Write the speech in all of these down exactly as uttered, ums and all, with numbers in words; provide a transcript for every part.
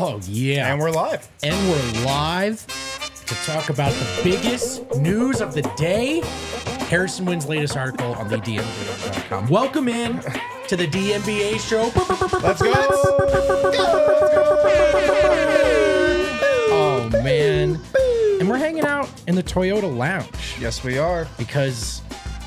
Oh, yeah. And we're live. And we're live to talk about the biggest news of the day. Harrison Wind's latest article on the D N B A dot com. Welcome in to the D N B A show. Let's go. Oh, man. And we're hanging out in the Toyota Lounge Yes, we are. because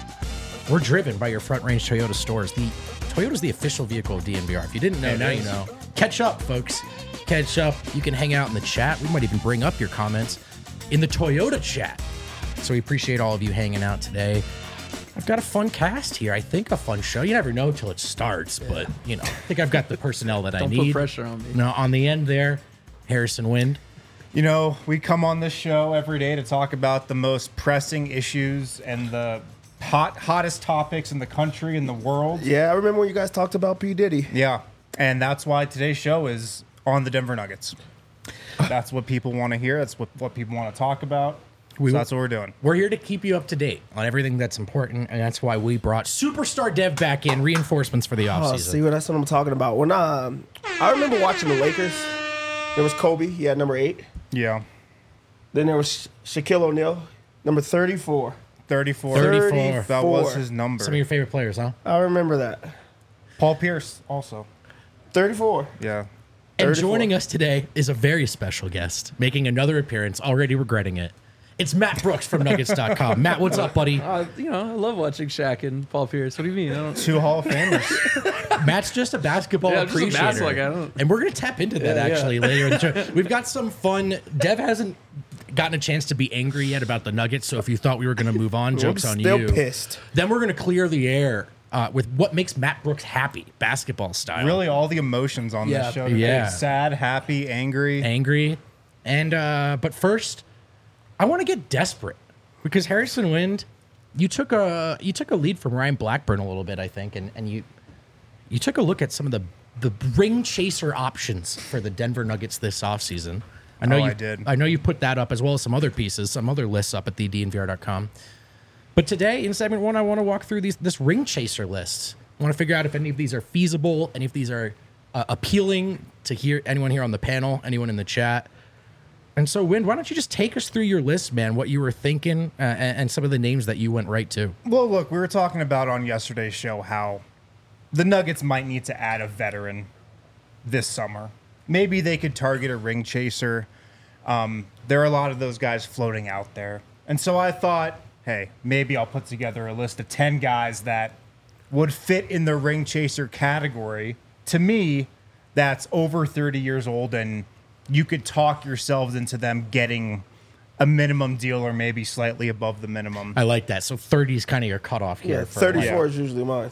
we're driven by your Front Range Toyota stores. The Toyota's the official vehicle of D N V R. If you didn't know, It now is. you know. Catch up, folks. Catch up. You can hang out in the chat. We might even bring up your comments in the Toyota chat. So we appreciate all of you hanging out today. I've got a fun cast here. I think a fun show. You never know till it starts, but you know, I think I've got the personnel that I Don't need. put pressure on me. No, on the end there, Harrison Wind. You know, we come on this show every day to talk about the most pressing issues and the hot, hottest topics in the country and the world. Yeah, I remember when you guys talked about P. Diddy. Yeah. And that's why today's show is on the Denver Nuggets. That's what people want to hear. That's what, what people want to talk about. We- so that's what we're doing. We're here to keep you up to date on everything that's important, and that's why we brought Superstar Dev back in, reinforcements for the Oh, offseason. see, what that's what I'm talking about. When um, I remember watching the Lakers. There was Kobe. He had number eight. Yeah. Then there was Sha- Shaquille O'Neal, number thirty-four. thirty-four. thirty-four. That was his number. Some of your favorite players, huh? I remember that. Paul Pierce also. thirty-four. Yeah. And thirty-four. joining us today is a very special guest, making another appearance, already regretting it. It's Matt Brooks from Nuggets dot com. Matt, what's up, buddy? Uh, you know, I love watching Shaq and Paul Pierce. What do you mean? I don't, Two Hall of Famers. Matt's just a basketball Yeah, I'm just a appreciator. basketball guy, I don't- And we're going to tap into that Yeah, yeah. actually later in the show. We've got some fun. Dev hasn't gotten a chance to be angry yet about the Nuggets, so if you thought we were going to move on, joke's on Still you. pissed. Then we're going to clear the air uh, with what makes Matt Brooks happy, basketball style. Really, all the emotions on Yeah. this show. today. Yeah. Sad, happy, angry. Angry. And, uh, but first, I want to get desperate because Harrison Wind, you took a, you took a lead from Ryan Blackburn a little bit, I think, and, and you, you took a look at some of the, the ring chaser options for the Denver Nuggets this offseason. I know Oh, you I did. I know you put that up as well as some other pieces, some other lists up at the D N V R dot com. But today in segment one, I want to walk through these this ring chaser list. I want to figure out if any of these are feasible, any of these are uh, appealing to hear anyone here on the panel, anyone in the chat. And so, Wind, why don't you just take us through your list, man? What you were thinking uh, and, and some of the names that you went right to. Well, look, we were talking about on yesterday's show how the Nuggets might need to add a veteran this summer. Maybe they could target a ring chaser. Um, there are a lot of those guys floating out there. And so I thought, hey, maybe I'll put together a list of ten guys that would fit in the ring chaser category. To me, that's over thirty years old, and you could talk yourselves into them getting a minimum deal or maybe slightly above the minimum. I like that. So thirty is kind of your cutoff here. Yeah, for, thirty-four Yeah. is usually mine.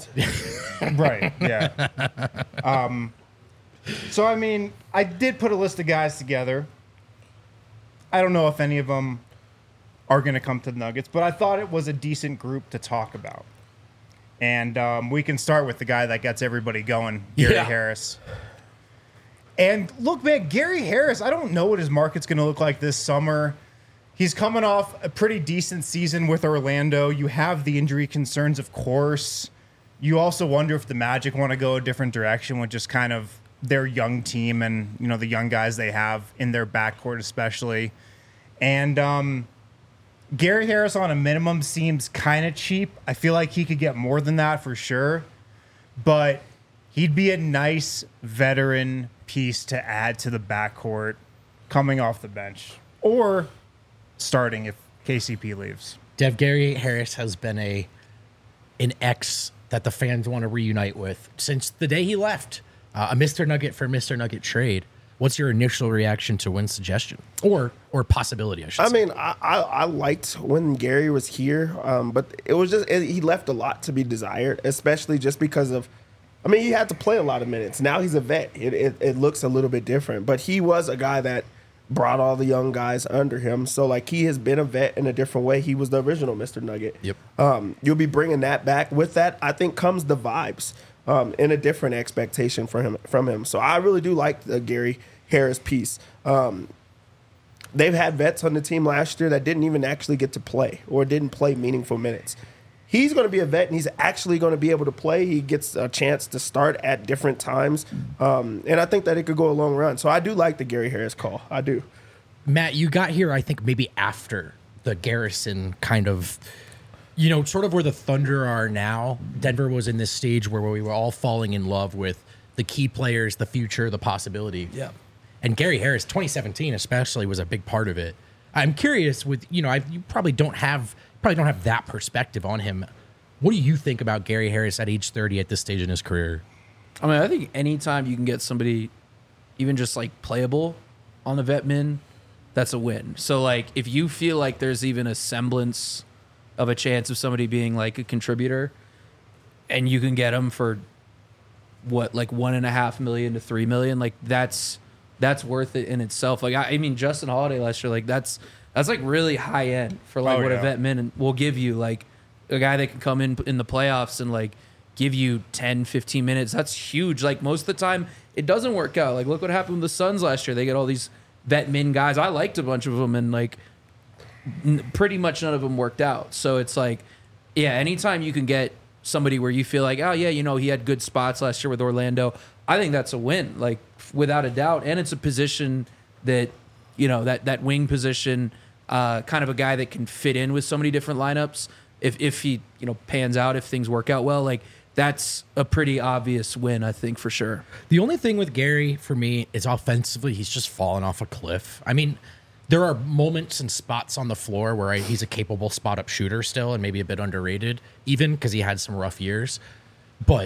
Right, yeah. um, so, I mean, I did put a list of guys together. I don't know if any of them are going to come to the Nuggets, but I thought it was a decent group to talk about. And um, we can start with the guy that gets everybody going, Gary Yeah. Harris. And look, man, Gary Harris, I don't know what his market's going to look like this summer. He's coming off a pretty decent season with Orlando. You have the injury concerns, of course. You also wonder if the Magic want to go a different direction with just kind of their young team and, you know, the young guys they have in their backcourt especially. And um, Gary Harris on a minimum seems kind of cheap. I feel like he could get more than that for sure. But he'd be a nice veteran piece to add to the backcourt coming off the bench or starting if K C P leaves. Dev, Gary Harris has been a an ex that the fans want to reunite with since the day he left. Uh, a Mister Nugget for Mister Nugget trade. What's your initial reaction to Wynn's suggestion or or possibility? I should I say. mean, I, I, I liked when Gary was here, um, but it was just it, he left a lot to be desired, especially just because of. I mean, he had to play a lot of minutes. Now he's a vet. It, it it looks a little bit different, but he was a guy that brought all the young guys under him. So like he has been a vet in a different way. He was the original Mister Nugget. Yep. Um, you'll be bringing that back. With that, I think comes the vibes um, and a different expectation for him from him. So I really do like the Gary Harris piece. Um, they've had vets on the team last year that didn't even actually get to play or didn't play meaningful minutes. he's going to be a vet, and he's actually going to be able to play. He gets a chance to start at different times, um, and I think that it could go a long run. So I do like the Gary Harris call. I do. Matt, you got here, I think, maybe after the Garrison kind of, you know, sort of where the Thunder are now. Denver was in this stage where we were all falling in love with the key players, the future, the possibility. Yeah. And Gary Harris, twenty seventeen especially, was a big part of it. I'm curious with, you know, I, you probably don't have probably don't have that perspective on him. What do you think about Gary Harris at age thirty at this stage in his career? I mean, I think anytime you can get somebody even just like playable on the vet min, that's a win. So like if you feel like there's even a semblance of a chance of somebody being like a contributor and you can get them for what, like one and a half million to three million, like that's that's worth it in itself. Like I, I mean Justin Holiday last year, like that's that's like really high end for like Oh, what yeah. a vet min will give you. Like a guy that can come in in the playoffs and like give you ten, fifteen minutes. That's huge. Like most of the time it doesn't work out. Like look what happened with the Suns last year. They get all these vet min guys. I liked a bunch of them and like n- pretty much none of them worked out. So it's like, yeah, anytime you can get somebody where you feel like, oh yeah, you know, he had good spots last year with Orlando, I think that's a win, like without a doubt. And it's a position that, you know, that, that wing position, uh, kind of a guy that can fit in with so many different lineups. If, if he, you know, pans out, if things work out well, like that's a pretty obvious win, I think, for sure. The only thing with Gary for me is offensively, he's just fallen off a cliff. I mean, there are moments and spots on the floor where I, he's a capable spot up shooter still and maybe a bit underrated, even because he had some rough years. But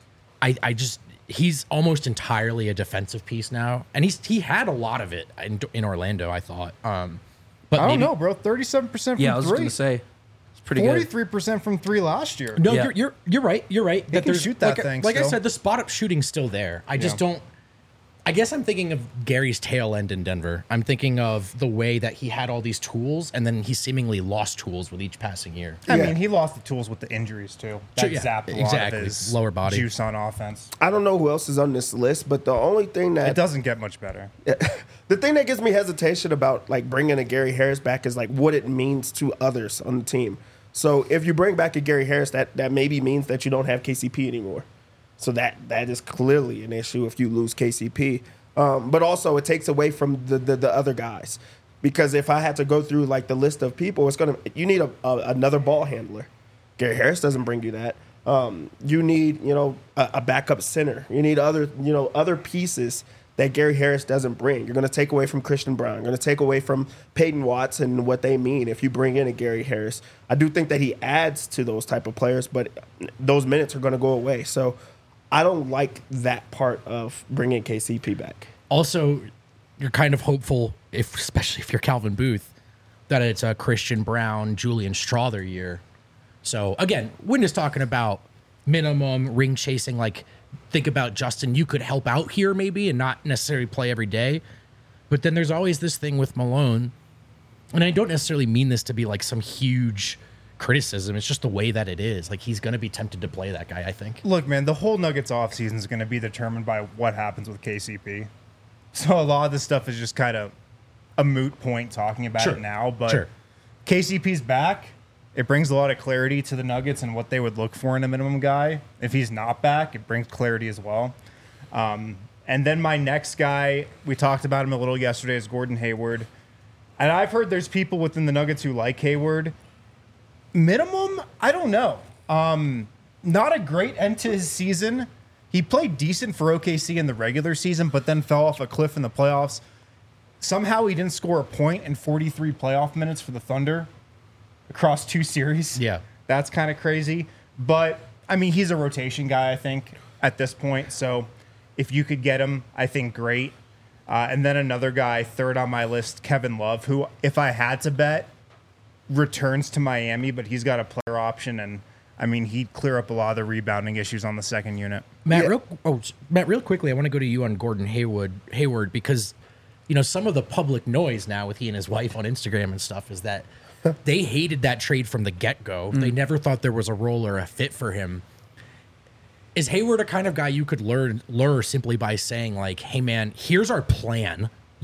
I, I just, he's almost entirely a defensive piece now. And he's he had a lot of it in, in Orlando, I thought. Um, but I don't maybe, know, bro. thirty-seven percent from Yeah, I was three. going to say, it's pretty good. forty-three percent from three last year. No, Yeah. you're, you're you're right. You're right. can there's- shoot that like, thing Like I still. said, the spot up shooting's still there. I just Yeah. don't. I guess I'm thinking of Gary's tail end in Denver. I'm thinking of the way that he had all these tools, and then he seemingly lost tools with each passing year. I Yeah. mean, he lost the tools with the injuries too. That Sure, yeah, zapped a lot exactly. of his Lower body. juice on offense. I don't know who else is on this list, but the only thing that It doesn't get much better. the thing that gives me hesitation about like bringing a Gary Harris back is like what it means to others on the team. So if you bring back a Gary Harris, that that maybe means that you don't have K C P anymore. So that that is clearly an issue if you lose K C P. Um, but also it takes away from the, the the other guys, because if I had to go through like the list of people, it's gonna you need a, a another ball handler. Gary Harris doesn't bring you that. Um, you need you know a, a backup center. You need other you know other pieces that Gary Harris doesn't bring. You're going to take away from Christian Brown. You're going to take away from Peyton Watts and what they mean if you bring in a Gary Harris. I do think that he adds to those type of players, but those minutes are going to go away. So I don't like that part of bringing K C P back. Also, you're kind of hopeful, if especially if you're Calvin Booth, that it's a Christian Brown, Julian Strother year. So again, we're just talking about minimum ring chasing. Like, think about Justin. You could help out here maybe and not necessarily play every day. But then there's always this thing with Malone. And I don't necessarily mean this to be like some huge criticism. It's just the way that it is. Like, he's going to be tempted to play that guy, I think. Look, man, the whole Nuggets offseason is going to be determined by what happens with K C P. So a lot of this stuff is just kind of a moot point talking about Sure. it now. But Sure. K C P's back. It brings a lot of clarity to the Nuggets and what they would look for in a minimum guy. If he's not back, it brings clarity as well. Um, and then my next guy, we talked about him a little yesterday, is Gordon Hayward. And I've heard there's people within the Nuggets who like Hayward. Minimum, I don't know. Um, not a great end to his season. He played decent for O K C in the regular season, but then fell off a cliff in the playoffs. Somehow he didn't score a point in forty-three playoff minutes for the Thunder across two series. Yeah. That's kind of crazy. But, I mean, he's a rotation guy, I think, at this point. So if you could get him, I think great. Uh, and then another guy, third on my list, Kevin Love, who, if I had to bet, returns to Miami, but he's got a player option. And, I mean, he'd clear up a lot of the rebounding issues on the second unit. Matt, Yeah. real oh, Matt, real quickly, I want to go to you on Gordon Hayward, Hayward, because you know some of the public noise now with he and his wife on Instagram and stuff is that they hated that trade from the get go. They never thought there was a role or a fit for him. Is Hayward a kind of guy you could lure lure simply by saying like, "Hey, man, here's our plan.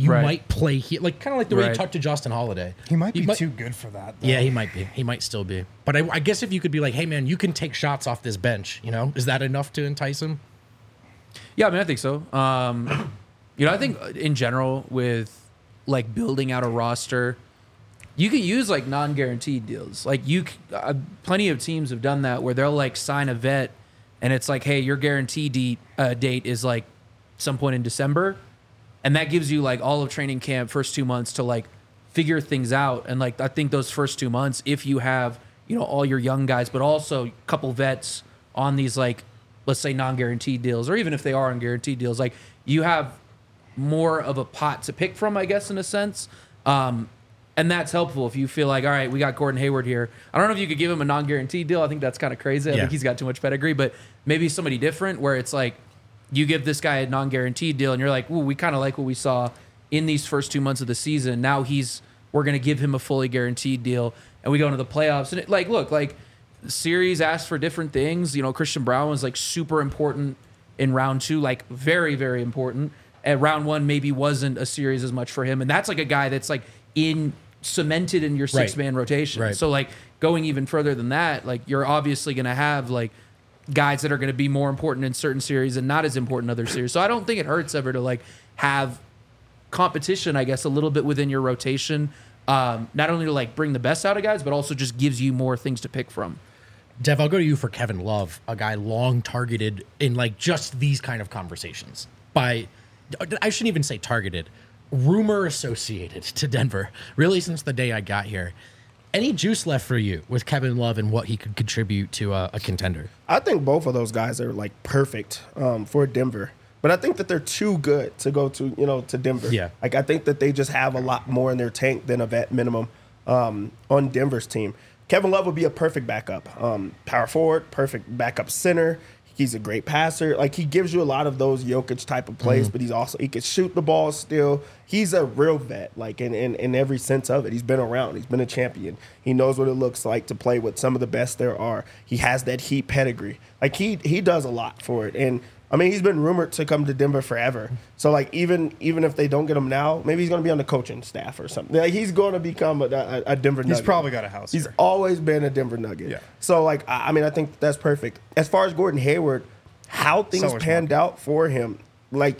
you Right. might play here, like kind of like the way you Right. talked to Justin Holiday. He might be too good for that. Though. Yeah, he might be. He might still be. But I, I guess if you could be like, hey man, you can take shots off this bench. You know, is that enough to entice him? Yeah, I mean, I think so. Um, you know, I think in general with like building out a roster, you can use like non-guaranteed deals. Like you, c- uh, plenty of teams have done that where they'll like sign a vet, and it's like, hey, your guarantee date uh, date is like some point in December, and that gives you like all of training camp, first two months to like figure things out. And like I think those first two months, if you have you know all your young guys, but also a couple vets on these like let's say non-guaranteed deals, or even if they are on guaranteed deals, like you have more of a pot to pick from, I guess, in a sense. Um, and that's helpful if you feel like, all right, we got Gordon Hayward here. I don't know if you could give him a non-guaranteed deal. I think that's kind of crazy. I Yeah. think he's got too much pedigree, but maybe somebody different where it's like you give this guy a non-guaranteed deal and you're like, ooh, we kind of like what we saw in these first two months of the season. Now he's, we're going to give him a fully guaranteed deal and we go into the playoffs. And it, like, look, like the series asked for different things. You know, Christian Brown was like super important in round two, like very, very important. At round one, maybe wasn't a series as much for him. And that's like a guy that's like in cemented in your six man rotation. Right. So like going even further than that, like you're obviously going to have like guys that are going to be more important in certain series and not as important in other series. So I don't think it hurts ever to like have competition, I guess, a little bit within your rotation. Um, not only to like bring the best out of guys, but also just gives you more things to pick from. Dev, I'll go to you for Kevin Love, a guy long targeted in like just these kind of conversations by, I shouldn't even say targeted, rumor associated to Denver, really since the day I got here. Any juice left for you with Kevin Love and what he could contribute to a, a contender? I think both of those guys are like perfect um, for Denver. But I think that they're too good to go to, you know, to Denver. Yeah. Like I think that they just have a lot more in their tank than a vet minimum um, on Denver's team. Kevin Love would be a perfect backup. Um, power forward, perfect backup center. He's a great passer. Like he gives you a lot of those Jokic type of plays, Mm-hmm. but he's also he can shoot the ball still. He's a real vet, like in, in in every sense of it. He's been around. He's been a champion. He knows what it looks like to play with some of the best there are. He has that Heat pedigree. Like he he does a lot for it. And I mean, he's been rumored to come to Denver forever. So like even even if they don't get him now, maybe he's going to be on the coaching staff or something. Like, he's going to become a, a, a Denver Nugget. He's probably got a house He's here. always been a Denver Nugget. Yeah. So like I, I mean, I think that's perfect. As far as Gordon Hayward, how things Seller's panned market. out for him, like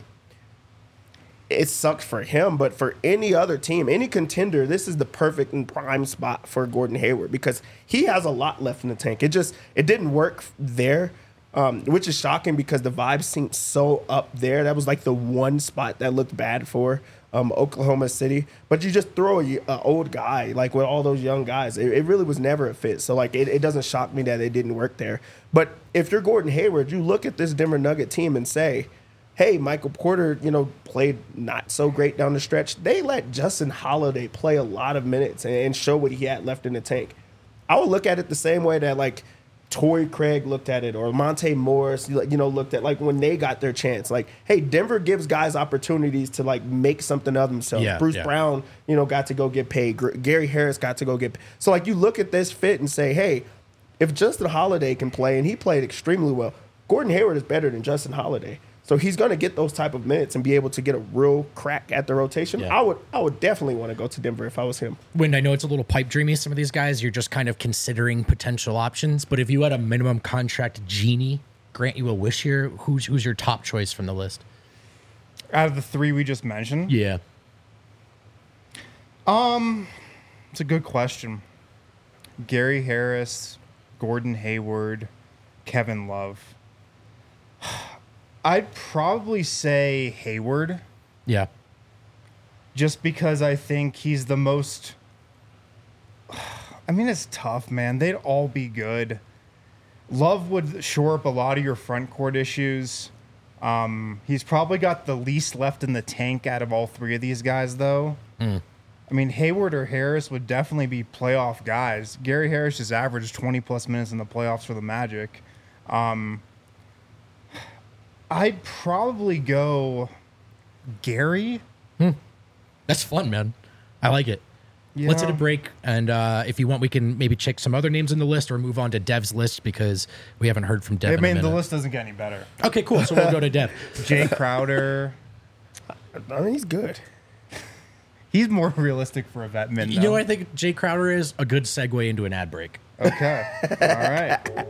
it sucks for him, but for any other team, any contender, this is the perfect and prime spot for Gordon Hayward because he has a lot left in the tank. It just it didn't work there, um, which is shocking because the vibes seemed so up there. That was like the one spot that looked bad for um, Oklahoma City. But you just throw a, a old guy like with all those young guys. It, it really was never a fit. So like it, it doesn't shock me that it didn't work there. But if you're Gordon Hayward, you look at this Denver Nugget team and say, hey, Michael Porter, you know, played not so great down the stretch. They let Justin Holiday play a lot of minutes and, and show what he had left in the tank. I would look at it the same way that like Torrey Craig looked at it or Monte Morris, you know, looked at like when they got their chance. Like, hey, Denver gives guys opportunities to like make something of themselves. Yeah, Bruce yeah. Brown, you know, got to go get paid. Gr- Gary Harris got to go get paid. So like you look at this fit and say, hey, if Justin Holiday can play, and he played extremely well, Gordon Hayward is better than Justin Holiday. So he's going to get those type of minutes and be able to get a real crack at the rotation. Yeah. I would I would definitely want to go to Denver if I was him. When I know it's a little pipe dreamy, some of these guys, you're just kind of considering potential options. But if you had a minimum contract genie grant you a wish here, who's who's your top choice from the list? Out of the three we just mentioned, Yeah. it's a good question. Gary Harris, Gordon Hayward, Kevin Love. I'd probably say Hayward, Yeah. just because I think he's the most. I mean, it's tough, man. They'd all be good. Love would shore up a lot of your front court issues. Um, he's probably got the least left in the tank out of all three of these guys, though. I mean, Hayward or Harris would definitely be playoff guys. Gary Harris just averaged twenty plus minutes in the playoffs for the Magic. Um, I'd probably go Gary. That's fun, man. I like it. Let's hit a Yeah. break, and uh, if you want, we can maybe check some other names in the list or move on to Dev's list because we haven't heard from Dev I in a mean, the minute. list doesn't get any better. Okay, cool. So we'll go to Dev. Jay Crowder. I mean, he's good. He's more realistic for a vet min. You know what I think Jay Crowder is? A good segue into an ad break. Okay. All right.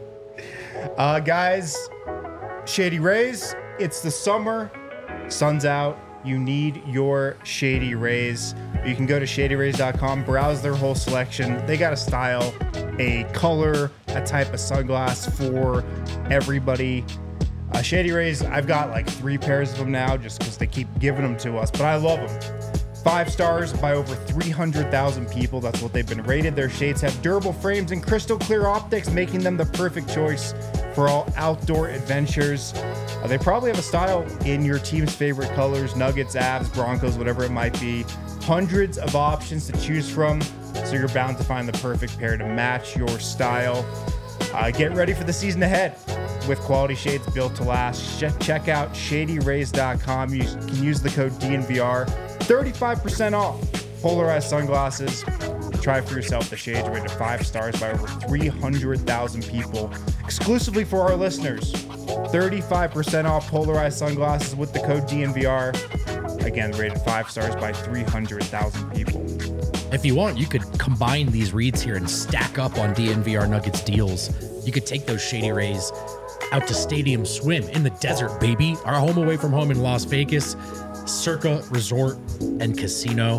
Uh, guys, Shady Rays, it's the summer. Sun's out. You need your Shady Rays. You can go to shady rays dot com, browse their whole selection. They got a style, a color, a type of sunglass for everybody. Uh, Shady Rays, I've got like three pairs of them now just because they keep giving them to us, but I love them. Five stars by over three hundred thousand people. That's what they've been rated. Their shades have durable frames and crystal clear optics, making them the perfect choice for all outdoor adventures. Uh, they probably have a style in your team's favorite colors, Nuggets, Avs, Broncos, whatever it might be. Hundreds of options to choose from, so you're bound to find the perfect pair to match your style. Uh, get ready for the season ahead with quality shades built to last. Check, check out shady rays dot com. You can use the code D N V R. thirty-five percent off polarized sunglasses. Try for yourself the shades rated five stars by over three hundred thousand people. Exclusively for our listeners. thirty-five percent off polarized sunglasses with the code D N V R. Again, rated five stars by three hundred thousand people. If you want, you could combine these reads here and stack up on D N V R Nuggets deals. You could take those Shady Rays out to Stadium Swim in the desert, baby. Our home away from home in Las Vegas, Circa Resort and Casino.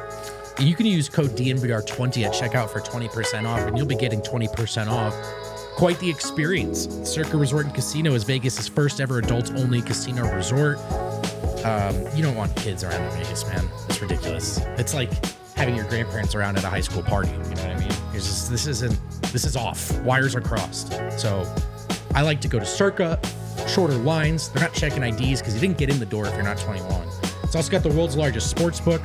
You can use code D N V R twenty at checkout for twenty percent off, and you'll be getting twenty percent off. Quite the experience. Circa Resort and Casino is Vegas's first ever adults-only casino resort. Um, you don't want kids around in Vegas, man. It's ridiculous. It's like having your grandparents around at a high school party. You know what I mean? It's just, this isn't. This is off. Wires are crossed. So I like to go to Circa. Shorter lines. They're not checking I Ds because you didn't get in the door if you're not twenty-one. It's also got the world's largest sports book,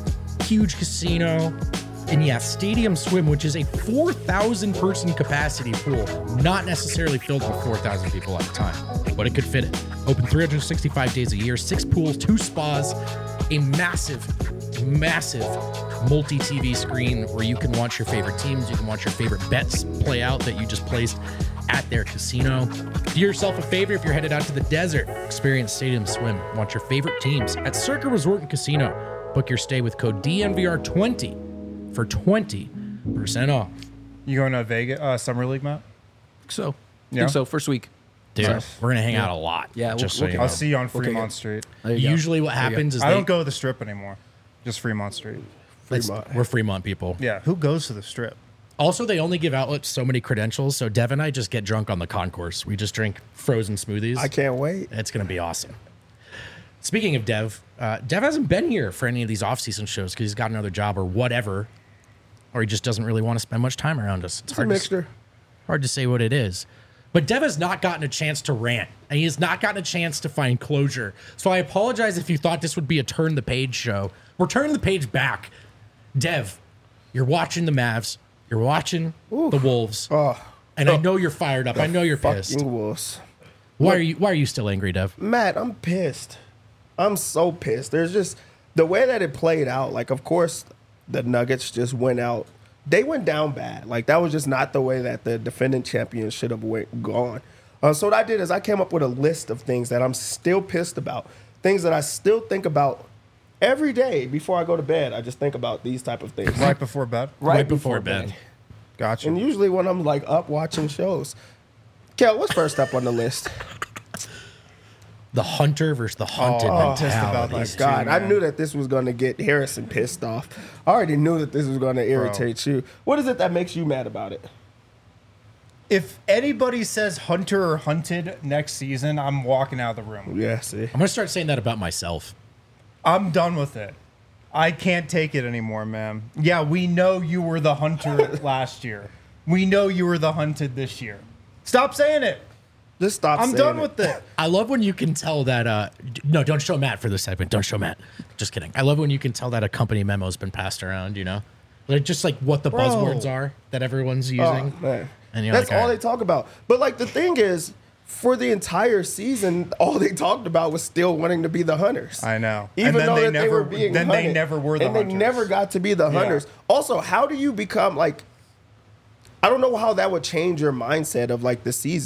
huge casino, and yeah, Stadium Swim, which is a four thousand person capacity pool, not necessarily filled with four thousand people at a time, but it could fit it. Open three hundred sixty-five days a year, six pools, two spas, a massive, massive multi-T V screen where you can watch your favorite teams, you can watch your favorite bets play out that you just placed at their casino. Do yourself a favor if you're headed out to the desert. Experience Stadium Swim. Watch your favorite teams at Circa Resort and Casino. Book your stay with code D N V R twenty for twenty percent off. You going to Vegas uh, Summer League, Matt? So, Yeah. think so. First week. Dude, Nice. we're going to hang out a lot. Yeah, we'll- just we'll so you I'll know. see you on Okay, Fremont good. Street. There you go. Usually what There you go. happens is I they, don't go to the Strip anymore. Just Fremont Street. it's- Fremont. we're Fremont people. Yeah, who goes to the Strip? Also, they only give outlets so many credentials, so Dev and I just get drunk on the concourse. We just drink frozen smoothies. I can't wait. It's going to be awesome. Speaking of Dev, uh, Dev hasn't been here for any of these off-season shows because he's got another job or whatever, or he just doesn't really want to spend much time around us. It's, It's a hard, to, mixture. hard to say what it is. But Dev has not gotten a chance to rant, and he has not gotten a chance to find closure. So I apologize if you thought this would be a turn the page show. We're turning the page back. Dev, you're watching the Mavs. You're watching the Wolves. Oh, And I know you're fired up. I know you're pissed. fucking Wolves. Why are you why are you still angry, Dev? Matt, I'm pissed. I'm so pissed. There's just the way that it played out. Like, of course, the Nuggets just went out. They went down bad. Like, that was just not the way that the defending champions should have went gone. Uh, so what I did is I came up with a list of things that I'm still pissed about, things that I still think about every day before I go to bed. I just think about these type of things Right before bed? Right before bed. Gotcha. And usually when I'm like up watching shows. Kel, what's first up on the list? The hunter versus the hunted Oh, I'm pissed mentality. about My these two, God, I man. knew that this was going to get Harrison pissed off. I already knew that this was going to irritate you. What is it that makes you mad about it? If anybody says hunter or hunted next season, I'm walking out of the room. Yeah, see. I'm gonna start saying that about myself. I'm done with it. I can't take it anymore, man. Yeah, we know you were the hunter last year. We know you were the hunted this year. Stop saying it. Just stop I'm saying done it. with it. I love when you can tell that. Uh, d- no, don't show Matt for this segment. Don't show Matt. Just kidding. I love when you can tell that a company memo's been passed around. You know, like just like what the Bro. buzzwords are that everyone's Oh, using. man. And you're That's like, all all they right. talk about. But, like, the thing is, for the entire season, all they talked about was still wanting to be the hunters. I know. Even And then though they that they never- were being then they hunted, never were the and hunters. they never got to be the Yeah. hunters. Also, how do you become, like, I don't know how that would change your mindset of, like, the season.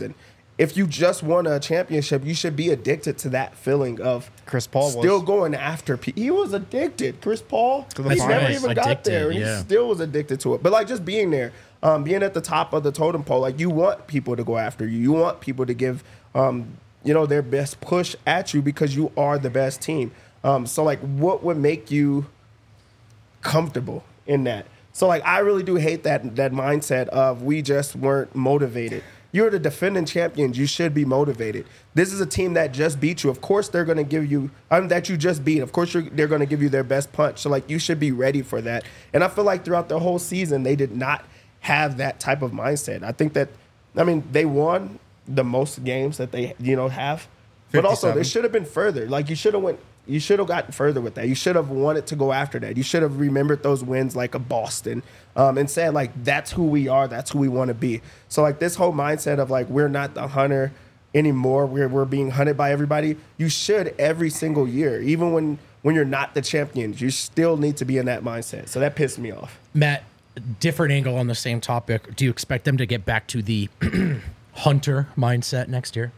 if you just won a championship, you should be addicted to that feeling of Chris Paul still was. going after people. He was addicted. Chris Paul, To the he never finals. even got Addicted, there. And yeah. He still was addicted to it. But like just being there, um, being at the top of the totem pole, like you want people to go after you. You want people to give, um, you know, their best push at you because you are the best team. Um, so like, what would make you comfortable in that? So like, I really do hate that that mindset of we just weren't motivated. You're the defending champions. You should be motivated. This is a team that just beat you. Of course, they're going to give you um, that you just beat. Of course, you're, they're going to give you their best punch. So like, you should be ready for that. And I feel like throughout the whole season, they did not have that type of mindset. I think that, I mean, they won the most games that they you know have, but also they fifty-seven. should have been further. Like you should have went. You should have gotten further with that. You should have wanted to go after that. You should have remembered those wins like a Boston um, and said, like, that's who we are. That's who we want to be. So, like, this whole mindset of, like, we're not the hunter anymore. We're, we're being hunted by everybody. You should every single year. Even when, when you're not the champions, you still need to be in that mindset. So that pissed me off. Matt, different angle on the same topic. Do you expect them to get back to the hunter mindset next year?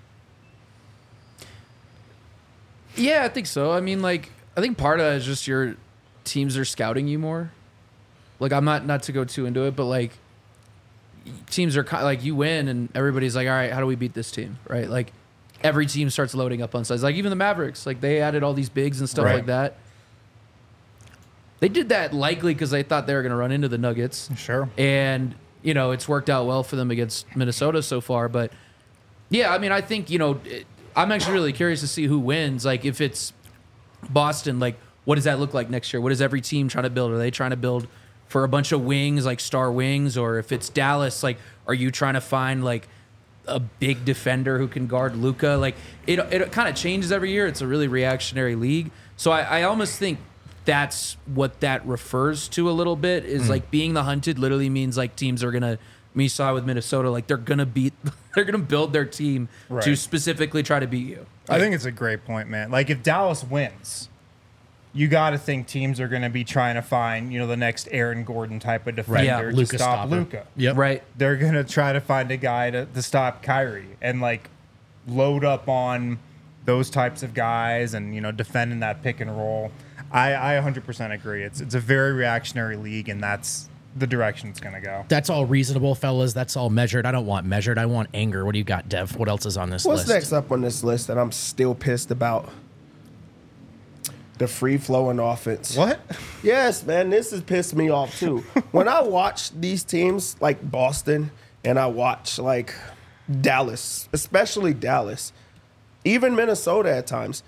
Yeah, I think so. I mean, like, I think part of it is just your teams are scouting you more. Like, I'm not not to go too into it, but like, teams are ki- like you win, and everybody's like, all right, how do we beat this team, right? Like, every team starts loading up on sides. Like even the Mavericks, like they added all these bigs and stuff Right. like that. They did that likely because they thought they were going to run into the Nuggets. Sure. And, you know, it's worked out well for them against Minnesota so far. But, yeah, I mean, I think, you know, it, I'm actually really curious to see who wins. Like, if it's Boston, like, what does that look like next year? What is every team trying to build? Are they trying to build for a bunch of wings, like star wings? Or if it's Dallas, like, are you trying to find, like, a big defender who can guard Luka? Like, it, it kind of changes every year. It's a really reactionary league. So I, I almost think that's what that refers to a little bit is like being the hunted literally means like teams are going to, we saw with Minnesota, like they're going to beat, they're going to build their team to Right. specifically try to beat you. I think it's a great point, man. Like if Dallas wins, you got to think teams are going to be trying to find, you know, the next Aaron Gordon type of defender Yeah, to Luka stop stopper. Luka. Yep. Right. They're going to try to find a guy to, to stop Kyrie and like load up on those types of guys and, you know, defending that pick and roll. I, I one hundred percent agree. It's it's a very reactionary league, and that's the direction it's going to go. That's all reasonable, fellas. That's all measured. I don't want measured. I want anger. What do you got, Dev? What else is on this What's list? next up on this list that I'm still pissed about? The free flowing offense. What? Yes, man, this has pissed me off too. When I watch these teams like Boston and I watch like Dallas, especially Dallas, even Minnesota at times,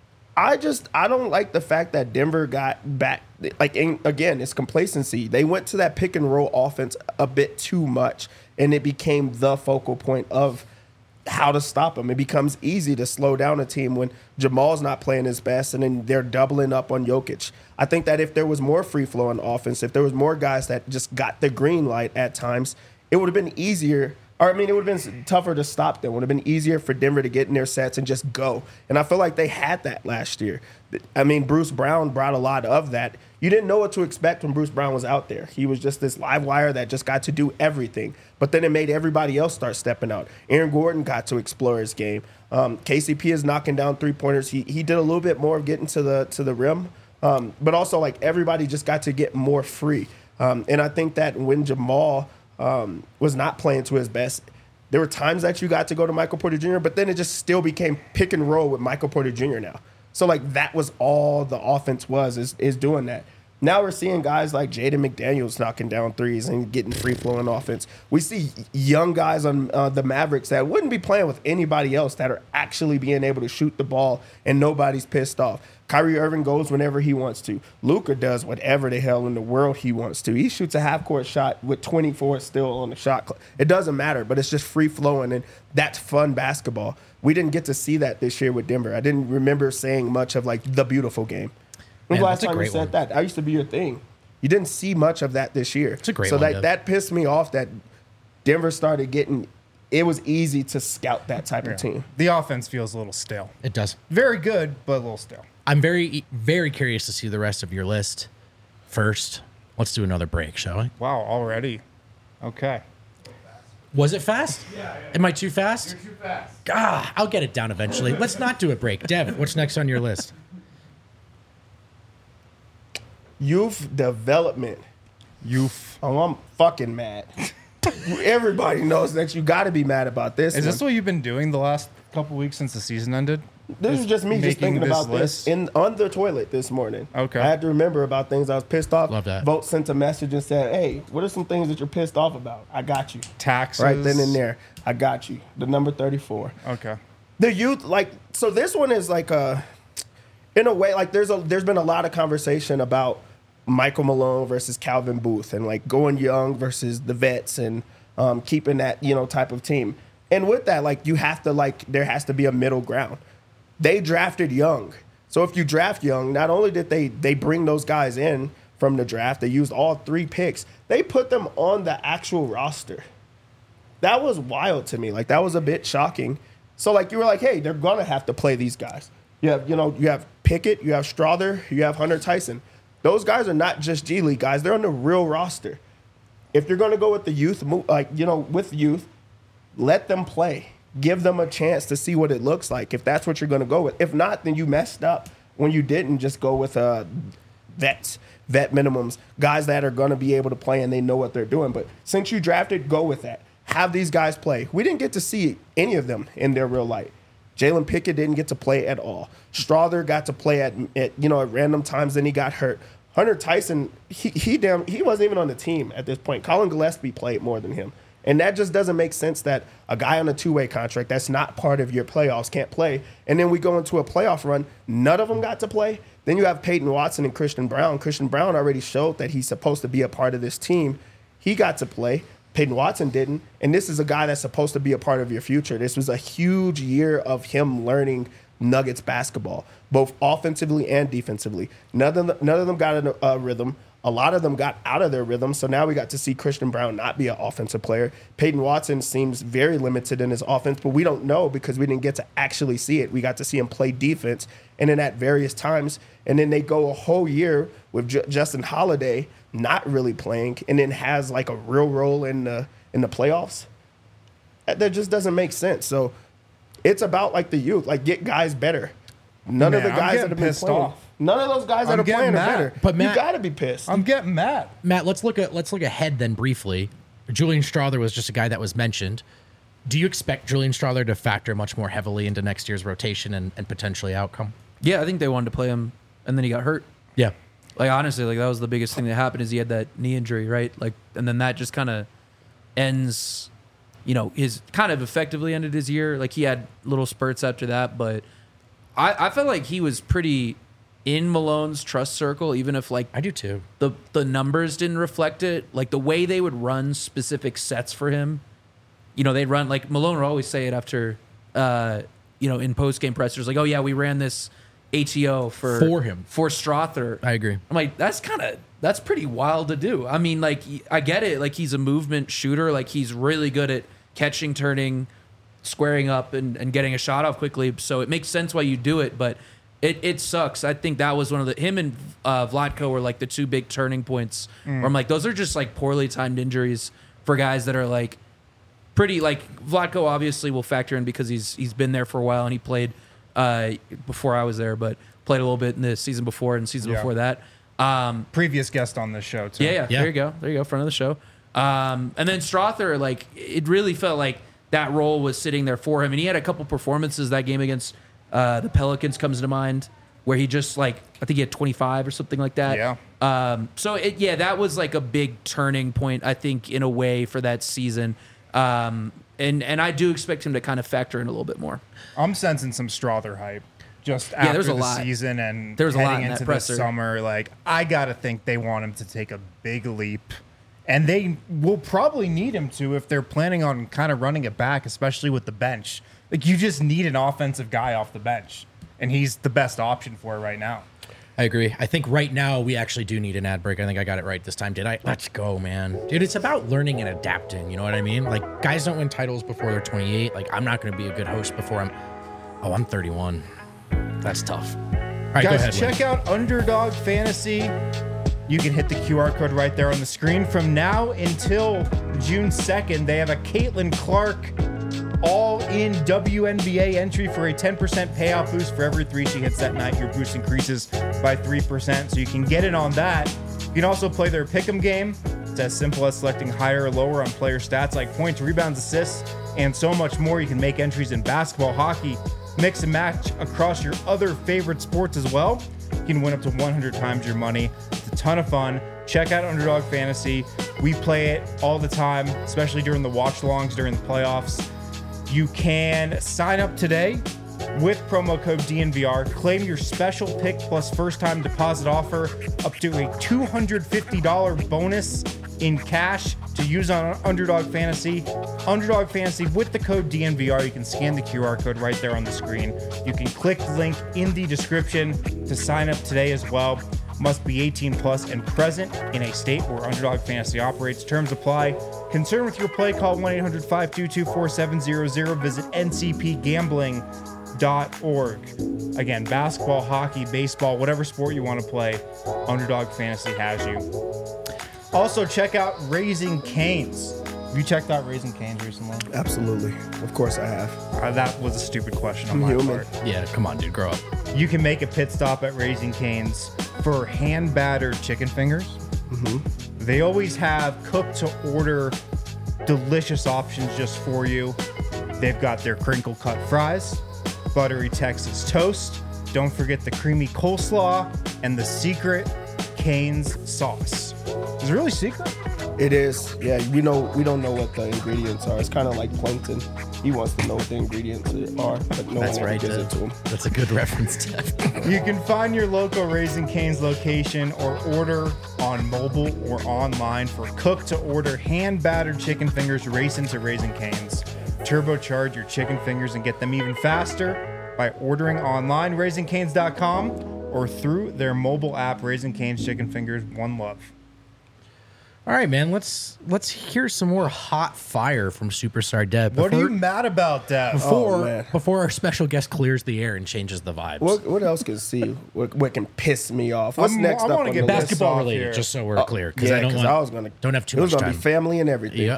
I just I don't like the fact that Denver got back. Like in, again, it's complacency. They went to that pick and roll offense a bit too much, and it became the focal point of how to stop them. It becomes easy to slow down a team when Jamal's not playing his best, and then they're doubling up on Jokic. I think that if there was more free flowing offense, if there was more guys that just got the green light at times, it would have been easier. Or, I mean, it would have been tougher to stop them. It would have been easier for Denver to get in their sets and just go. And I feel like they had that last year. I mean, Bruce Brown brought a lot of that. You didn't know what to expect when Bruce Brown was out there. He was just this live wire that just got to do everything. But then it made everybody else start stepping out. Aaron Gordon got to explore his game. Um, K C P is knocking down three-pointers. He he did a little bit more of getting to the to the rim. Um, but also, like, everybody just got to get more free. Um, and I think that when Jamal um, was not playing to his best, there were times that you got to go to Michael Porter Junior, but then it just still became pick and roll with Michael Porter Junior now. So, like, that was all the offense was, is, is doing that. Now we're seeing guys like Jaden McDaniels knocking down threes and getting free-flowing offense. We see young guys on uh, the Mavericks that wouldn't be playing with anybody else that are actually being able to shoot the ball, and nobody's pissed off. Kyrie Irving goes whenever he wants to. Luka does whatever the hell in the world he wants to. He shoots a half-court shot with twenty-four still on the shot clock. It doesn't matter, but it's just free-flowing, and that's fun basketball. We didn't get to see that this year with Denver. I didn't remember saying much of, like, the beautiful game. When Man, was that's the a last time you great said one. that? That used to be your thing. You didn't see much of that this year. It's a great so one, that Dev. that pissed me off that Denver started getting. It was easy to scout that type Yeah. of team. The offense feels a little stale. It does. Very good, but a little stale. I'm very, very curious to see the rest of your list. First, let's do another break, shall we? Wow, already. Okay. Was it fast? Yeah, yeah. Am I too fast? You're too fast. Ah, I'll get it down eventually. Let's not do a break. Devin, what's next on your list? Youth development. Youth. Oh, I'm fucking mad. Everybody knows that you got to be mad about this. Is one. this what you've been doing the last couple weeks since the season ended? This is just me just making thinking this about list? this in on the toilet this morning. Okay. I had to remember about things I was pissed off. Love that. Vote sent a message and said, "Hey, what are some things that you're pissed off about? I got you." Taxes. Right then and there. I got you. The number thirty-four. Okay. The youth, like, so this one is like a, in a way, like there's a there's been a lot of conversation about Michael Malone versus Calvin Booth and like going young versus the vets and um, keeping that, you know, type of team. And with that, like you have to like there has to be a middle ground. They drafted young. So if you draft young, not only did they they bring those guys in from the draft, they used all three picks. They put them on the actual roster. That was wild to me. Like that was a bit shocking. So like you were like, hey, they're gonna have to play these guys. You have, you know, you have Pickett, you have Strother, you have Hunter Tyson. Those guys are not just G League guys; they're on the real roster. If you're gonna go with the youth, like you know, with youth, let them play. Give them a chance to see what it looks like. If that's what you're gonna go with. If not, then you messed up when you didn't just go with uh, vets, vet minimums, guys that are gonna be able to play and they know what they're doing. But since you drafted, go with that. Have these guys play. We didn't get to see any of them in their real light. Jalen Pickett didn't get to play at all. Strother got to play at, at you know at random times, then he got hurt. Hunter Tyson, he he damn he wasn't even on the team at this point. Colin Gillespie played more than him. And that just doesn't make sense that a guy on a two-way contract that's not part of your playoffs can't play. And then we go into a playoff run, none of them got to play. Then you have Peyton Watson and Christian Brown. Christian Brown already showed that he's supposed to be a part of this team. He got to play. Peyton Watson didn't. And this is a guy that's supposed to be a part of your future. This was a huge year of him learning Nuggets basketball, both offensively and defensively. None of them, none of them got a, a rhythm. A lot of them got out of their rhythm, so now we got to see Christian Brown not be an offensive player. Peyton Watson seems very limited in his offense, but we don't know because we didn't get to actually see it. We got to see him play defense, and then at various times, and then they go a whole year with J- Justin Holiday not really playing, and then has like a real role in the in the playoffs. That, that just doesn't make sense. So it's about like the youth, like get guys better. None Man, of the I'm guys getting that have been pissed playing. off. None of those guys I'm that are getting playing mad. are better. But Matt- you got to be pissed. I'm getting mad. Matt, let's look at let's look ahead then briefly. Julian Strother was just a guy that was mentioned. Do you expect Julian Strother to factor much more heavily into next year's rotation and, and potentially outcome? Yeah, I think they wanted to play him, and then he got hurt. Yeah. Like honestly, like that was the biggest thing that happened is he had that knee injury, right? Like, and then that just kind of ends, you know, his kind of effectively ended his year. Like he had little spurts after that, but I, I felt like he was pretty in Malone's trust circle, even if like I do too. the the numbers didn't reflect it. Like the way they would run specific sets for him, you know, they'd run like Malone would always say it after, uh, you know, in post game pressers, like, oh yeah, we ran this A T O for For him. for Strother. I agree. I'm like, that's kind of that's pretty wild to do. I mean, like I get it, like he's a movement shooter, like he's really good at catching, turning, squaring up, and, and getting a shot off quickly. So it makes sense why you do it, but it, it sucks. I think that was one of the him and uh, Vlatko were like the two big turning points. Mm. Where I'm like, those are just like poorly timed injuries for guys that are like pretty like Vlatko obviously will factor in because he's he's been there for a while and he played uh, before I was there, but played a little bit in the season before and season Yeah. before that. Um, Previous guest on this show, too. yeah, yeah, Yeah. there you go. There you go, front of the show. Um, and then Strother, like, it really felt like that role was sitting there for him. And he had a couple performances that game against uh, the Pelicans comes to mind where he just, like, I think he had twenty-five or something like that. Yeah. Um, so, it, yeah, that was, like, a big turning point, I think, in a way for that season. Um, and, and I do expect him to kind of factor in a little bit more. I'm sensing some Strother hype. Just Yeah, after there's a the lot. season and There's a lot heading in that into the presser. summer, like I gotta think they want him to take a big leap, and they will probably need him to if they're planning on kind of running it back, especially with the bench. Like you just need an offensive guy off the bench, and he's the best option for it right now. I agree. I think right now we actually do need an ad break. I think I got it right this time. Did I? Let's go, man. Dude, it's about learning and adapting. You know what I mean? Like guys don't win titles before they're twenty-eight. Like I'm not going to be a good host before I'm, oh, I'm thirty-one. That's tough. All right, go Guys, ahead. check Lynn. out Underdog Fantasy. you can hit the Q R code right there on the screen. From now until June second, they have a Caitlin Clark all-in W N B A entry for a ten percent payout boost for every three she hits that night. Your boost increases by three percent, so you can get in on that. You can also play their pick'em game. It's as simple as selecting higher or lower on player stats like points, rebounds, assists, and so much more. You can make entries in basketball, hockey, mix and match across your other favorite sports as well. You can win up to one hundred times your money. It's a ton of fun. Check out Underdog Fantasy. We play it all the time, especially during the watch-alongs during the playoffs. You can sign up today with promo code D N V R. Claim your special pick plus first-time deposit offer up to a two hundred fifty dollars bonus in cash to use on Underdog Fantasy. Underdog Fantasy with the code D N V R. You can scan the Q R code right there on the screen. You can click the link in the description to sign up today as well. Must be eighteen plus and present in a state where Underdog Fantasy operates. Terms apply. Concerned with your play, call one eight hundred five two two four seven zero zero. Visit N C P gambling dot org. Again, basketball, hockey, baseball, whatever sport you want to play, Underdog Fantasy has you. Also, check out Raising Cane's. Have you checked out Raising Cane's recently? Absolutely. Of course I have. Uh, that was a stupid question on I'm my human. part. Yeah, come on, dude, grow up. You can make a pit stop at Raising Cane's for hand-battered chicken fingers. Mm-hmm. They always have cooked-to-order delicious options just for you. They've got their crinkle-cut fries, buttery Texas toast. Don't forget the creamy coleslaw and the secret Cane's sauce. Is it really secret? It is. Yeah, we know we don't know what the ingredients are. It's kind of like Plankton. He wants to know what the ingredients are, but no That's one ever right. gives uh, it to him. That's a good reference, Jeff. You can find your local Raising Cane's location or order on mobile or online for cooked-to-order hand-battered chicken fingers. Race into Raising Cane's. Turbocharge your chicken fingers and get them even faster by ordering online, raising canes dot com, or through their mobile app, Raising Cane's Chicken Fingers. One love. All right, man. Let's let's hear some more hot fire from Superstar Deb. What are you Before- mad about, Dev? Before, Oh, man. before our special guest clears the air and changes the vibes. What, what else can see? What, what can piss me off? What's I'm- next I up wanna on get the list? Basketball off related, here. just so we're Oh, clear, because yeah, I don't 'cause want. I was gonna, don't have too it was much gonna time. be family and everything. Yeah.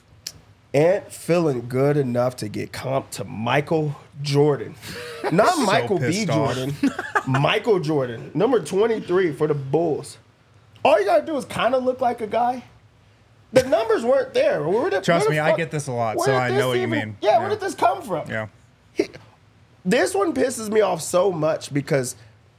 Ant feeling good enough to get comped to Michael Jordan. Not So Michael B. pissed off. Jordan. Michael Jordan. Number twenty-three for the Bulls. All you gotta do is kind of look like a guy. The numbers weren't there. Where did, Trust where the me, I fuck- get this a lot, where so did I this know what you even- mean. Yeah, Yeah. where did this come from? Yeah. He, this one pisses me off so much because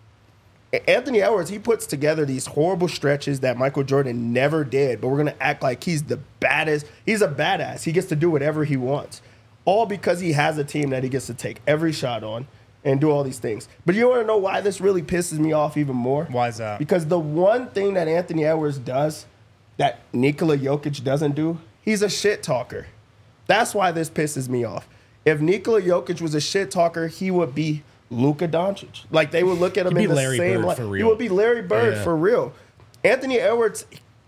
Anthony Edwards, he puts together these horrible stretches that Michael Jordan never did, but we're going to act like he's the baddest. He's a badass. He gets to do whatever he wants, all because he has a team that he gets to take every shot on and do all these things. But you want to know why this really pisses me off even more? Why is that? Because the one thing that Anthony Edwards does that Nikola Jokic doesn't do, he's a shit talker. That's why this pisses me off. If Nikola Jokic was a shit talker, he would be Luka Doncic. Like, they would look at him He'd in be the Larry same Bird light. for He real. would be Larry Bird Yeah. for real. Anthony Edwards,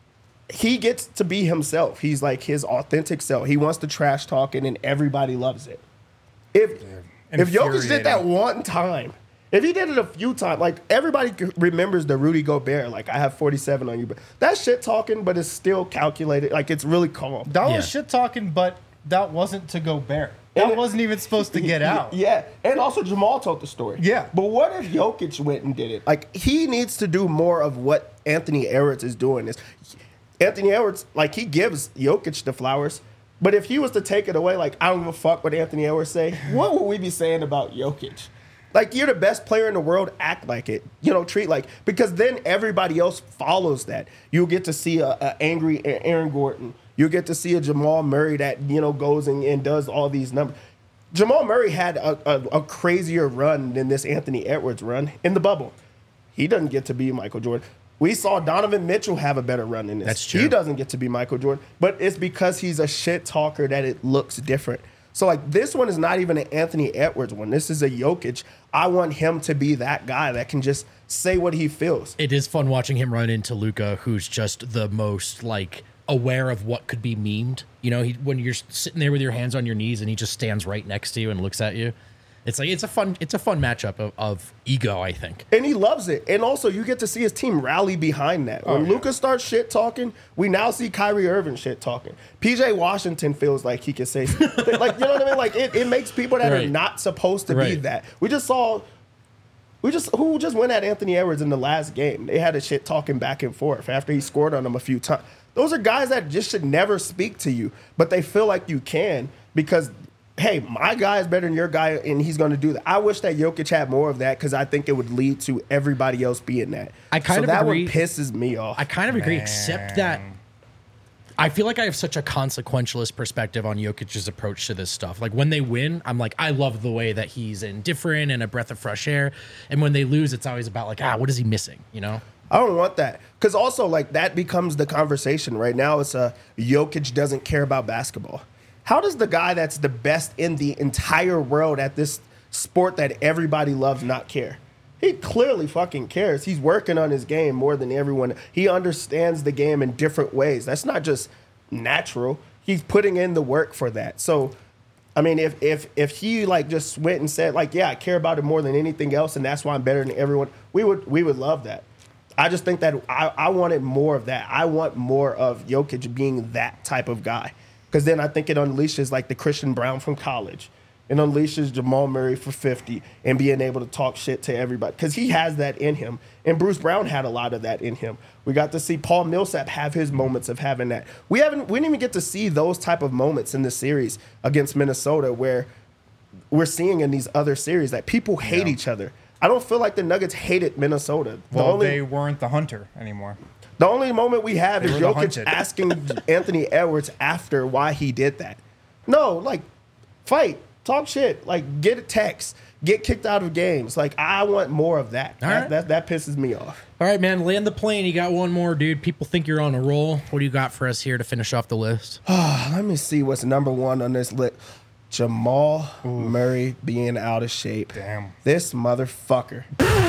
he gets to be himself. He's like his authentic self. He wants to trash talking, and everybody loves it. If if Jokic did that Infuriating. one time, if he did it a few times, like everybody c- remembers the Rudy Gobert, like I have forty-seven on you, but that shit talking, but it's still calculated. Like it's really calm. That Yeah. was shit talking, but that wasn't to Gobert. And That it- wasn't even supposed to get out. Yeah, and also Jamal told the story. Yeah. But what if Jokic went and did it? Like, he needs to do more of what Anthony Edwards is doing. Is Anthony Edwards, like, he gives Jokic the flowers, but if he was to take it away, like, I don't give a fuck what Anthony Edwards say, what would we be saying about Jokic? Like, you're the best player in the world, act like it. You know, treat like, because then everybody else follows that. You'll get to see a, a angry Aaron Gordon. You'll get to see a Jamal Murray that, you know, goes and, and does all these numbers. Jamal Murray had a, a, a crazier run than this Anthony Edwards run in the bubble. He doesn't get to be Michael Jordan. We saw Donovan Mitchell have a better run than this. That's true. He doesn't get to be Michael Jordan, but it's because he's a shit talker that it looks different. So, like, this one is not even an Anthony Edwards one. This is a Jokic. I want him to be that guy that can just say what he feels. It is fun watching him run into Luca, who's just the most like aware of what could be memed. You know, he when you're sitting there with your hands on your knees and he just stands right next to you and looks at you. It's like it's a fun it's a fun matchup of, of ego, I think. And he loves it. And also, you get to see his team rally behind that. When Oh, yeah. Luka starts shit talking, we now see Kyrie Irving shit talking. P J Washington feels like he can say something. Like, you know what I mean? Like, it, it makes people that Right. are not supposed to be Right. that. We just saw, we just, who just went at Anthony Edwards in the last game? They had a shit talking back and forth after he scored on them a few times. Those are guys that just should never speak to you, but they feel like you can because hey, my guy is better than your guy, and he's going to do that. I wish that Jokic had more of that because I think it would lead to everybody else being that. I kind so of that agree. one pisses me off. I kind of agree, except that I feel like I have such a consequentialist perspective on Jokic's approach to this stuff. Like when they win, I'm like, I love the way that he's indifferent and a breath of fresh air. And when they lose, it's always about like, ah, what is he missing? You know? I don't want that because also like that becomes the conversation right now. It's a Jokic doesn't care about basketball. How does the guy that's the best in the entire world at this sport that everybody loves not care? He clearly fucking cares. He's working on his game more than everyone. He understands the game in different ways. That's not just natural. He's putting in the work for that. So, I mean, if if if he like just went and said like, yeah, I care about it more than anything else, and that's why I'm better than everyone, we would we would love that. I just think that I, I wanted more of that. I want more of Jokic being that type of guy. Because then I think it unleashes like the Christian Brown from college. It unleashes Jamal Murray for fifty and being able to talk shit to everybody. Because he has that in him. And Bruce Brown had a lot of that in him. We got to see Paul Millsap have his moments of having that. We haven't we didn't even get to see those type of moments in the series against Minnesota where we're seeing in these other series that people hate Yeah. each other. I don't feel like the Nuggets hated Minnesota. The Well, only, they weren't the hunter anymore. The only moment we have They is were the Jokic hunted. asking Anthony Edwards after why he did that. No, like, fight, talk shit, like, get a text, get kicked out of games. Like, I want more of that. All That, right. that, that pisses me off. All right, man, land the plane. You got one more, dude. People think you're on a roll. What do you got for us here to finish off the list? Let me see what's number one on this list. Jamal Murray being out of shape. Damn. This motherfucker.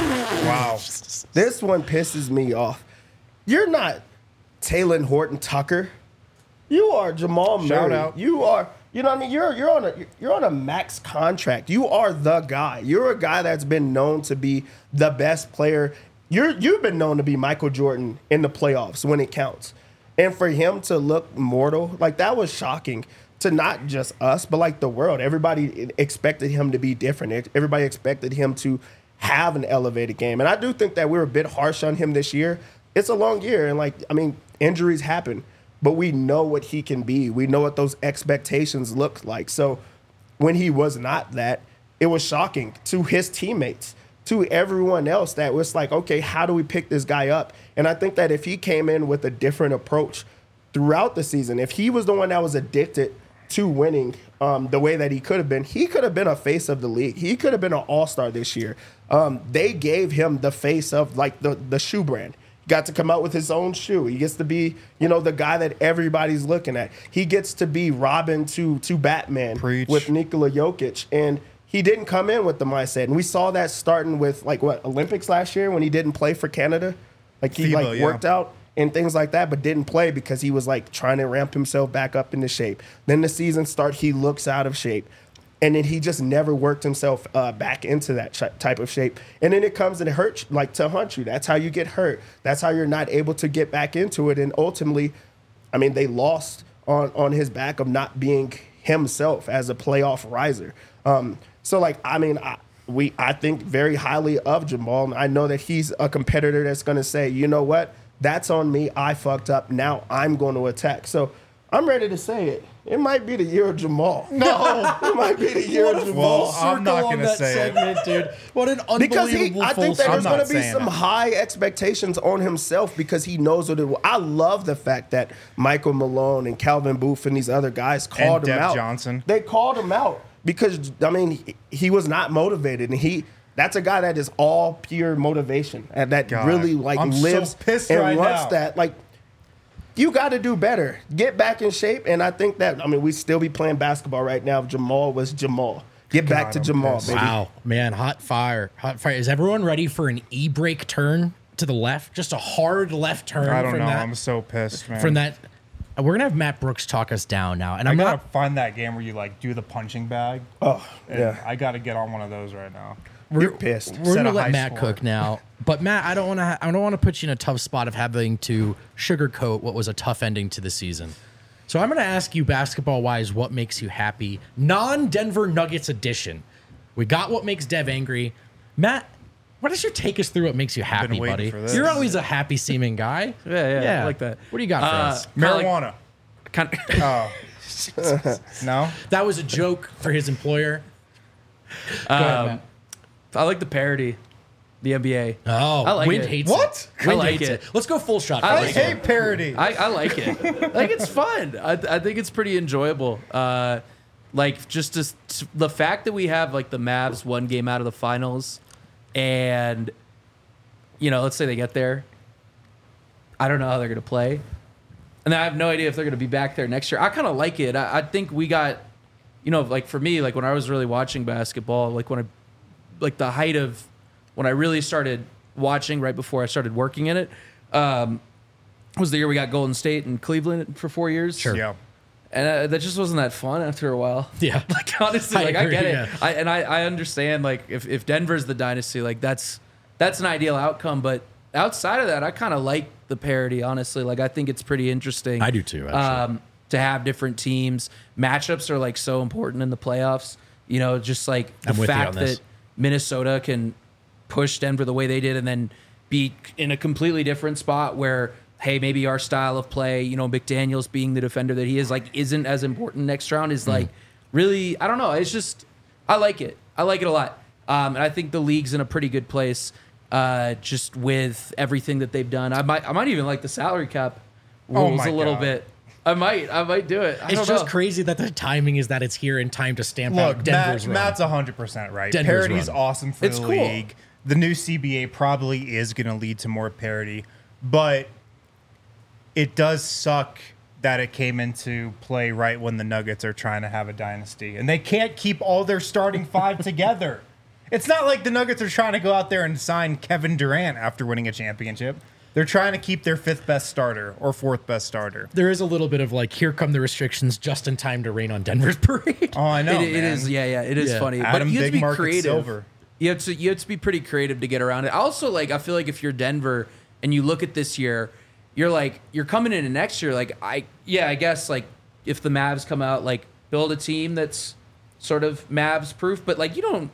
Wow. This one pisses me off. You're not Taylor Horton Tucker. You are Jamal Shout Murray. out. You are, you know what I mean? You're you're on a you're on a max contract. You are the guy. You're a guy that's been known to be the best player. You're you've been known to be Michael Jordan in the playoffs when it counts. And for him to look mortal, like that was shocking to not just us, but like the world. Everybody expected him to be different. Everybody expected him to have an elevated game. And I do think that we were a bit harsh on him this year. It's a long year. And like, I mean, injuries happen, but we know what he can be. We know what those expectations look like. So when he was not that, it was shocking to his teammates, to everyone else that was like, okay, how do we pick this guy up? And I think that if he came in with a different approach throughout the season, if he was the one that was addicted to winning um, the way that he could have been, he could have been a face of the league. He could have been an all-star this year. Um, they gave him the face of like the, the shoe brand. He got to come out with his own shoe. He gets to be, you know, the guy that everybody's looking at. He gets to be Robin to to Batman Preach. with Nikola Jokic. And he didn't come in with the mindset. And we saw that starting with like what, Olympics last year when he didn't play for Canada. Like he FIBA, like yeah. worked out and things like that, but didn't play because he was like trying to ramp himself back up into shape. Then the season start, he looks out of shape. And then he just never worked himself uh, back into that ch- type of shape. And then it comes and it hurts, like to hunt you. That's how you get hurt. That's how you're not able to get back into it. And ultimately, I mean, they lost on, on his back of not being himself as a playoff riser. Um, so, like, I mean, I, we I think very highly of Jamal. And I know that he's a competitor that's going to say, you know what? That's on me. I fucked up. Now I'm going to attack. So I'm ready to say it. It might be the year of Jamal. No, it might be the year of Jamal. Well, I'm not gonna say it. dude. What an unbelievable Because he, I think that I'm there's not going to be saying some it. high expectations on himself because he knows what it will. I love the fact that Michael Malone and Calvin Booth and these other guys called him Dev out. Johnson. They called him out because, I mean, he, he was not motivated. And he that's a guy that is all pure motivation and that God, really, like, I'm so lives pissed and right wants now. that. Like, you got to do better. Get back in shape. And I think that, I mean, we still be playing basketball right now if Jamal was Jamal. Get back God, to I'm Jamal, pissed. baby. Wow, man, hot fire, hot fire. Is everyone ready for an e-brake turn to the left? Just a hard left turn I don't from know. that I'm so pissed, man. from that We're gonna have Matt Brooks talk us down now, and I I'm gotta not. find that game where you like do the punching bag. Oh, And yeah. I gotta get on one of those right now. You're pissed. We're Set gonna a let high Matt score. cook now, but Matt, I don't want to. Ha- I don't want to put you in a tough spot of having to sugarcoat what was a tough ending to the season. So I'm gonna ask you, basketball wise, what makes you happy? Non-Denver Nuggets edition. We got what makes Dev angry. Matt, why don't you take us through what makes you happy, waiting buddy? for this. You're always a happy seeming guy. Yeah, yeah, I like that. What do you got for Uh, us? Kinda like- Marijuana. Kind Oh. No? That was a joke for his employer. Go ahead, um, Matt. I like the parody, the N B A. Oh, I like Wind it. hates What? it. I Wind like hates it. it. Let's go full shot. I I fellas. like hate parody. I, I like it. Like it's fun. I, I think it's pretty enjoyable. Uh, like just to, s- the fact that we have like the Mavs one game out of the finals, and you know, let's say they get there. I don't know how they're gonna play, and I have no idea if they're gonna be back there next year. I kind of like it. I, I think we got, you know, like for me, like when I was really watching basketball, like when I, like the height of when I really started watching right before I started working in it. Um, was the year we got Golden State and Cleveland for four years. Sure. Yeah. And uh, that just wasn't that fun after a while. Yeah. Like honestly, I like I agree, get it. yeah. I, and I, I understand like if, if Denver's the dynasty, like that's that's an ideal outcome. But outside of that, I kind of like the parody, honestly. Like I think it's pretty interesting. I do too, actually. Um, to have different teams. Matchups are like so important in the playoffs. You know, just like the I'm with you fact on this. that Minnesota can push Denver the way they did and then be in a completely different spot where, hey, maybe our style of play, you know, McDaniels being the defender that he is, like, isn't as important next round is like really, I don't know. It's just, I like it. I like it a lot. Um, and I think the league's in a pretty good place uh, just with everything that they've done. I might, I might even like the salary cap Oh rules my a little God. bit. I might, I might do it. I It's don't just know. crazy that the timing is that it's here in time to stamp Look, out Denver's Matt, run. Matt's one hundred percent right. Denver's Parody's run. awesome for It's the cool. league. The new C B A probably is going to lead to more parody, but it does suck that it came into play right when the Nuggets are trying to have a dynasty, and they can't keep all their starting five together. It's not like the Nuggets are trying to go out there and sign Kevin Durant after winning a championship. They're trying to keep their fifth best starter or fourth best starter. There is a little bit of like, here come the restrictions just in time to rain on Denver's parade. Oh, I know. It, it man. is, yeah, yeah. It is Yeah. funny, Adam but you have Big to be Market creative. Silver. You have to you have to be pretty creative to get around it. Also, like I feel like if you're Denver and you look at this year, you're like you're coming into next year. Like I yeah, I guess like if the Mavs come out, like build a team that's sort of Mavs proof. But like you don't,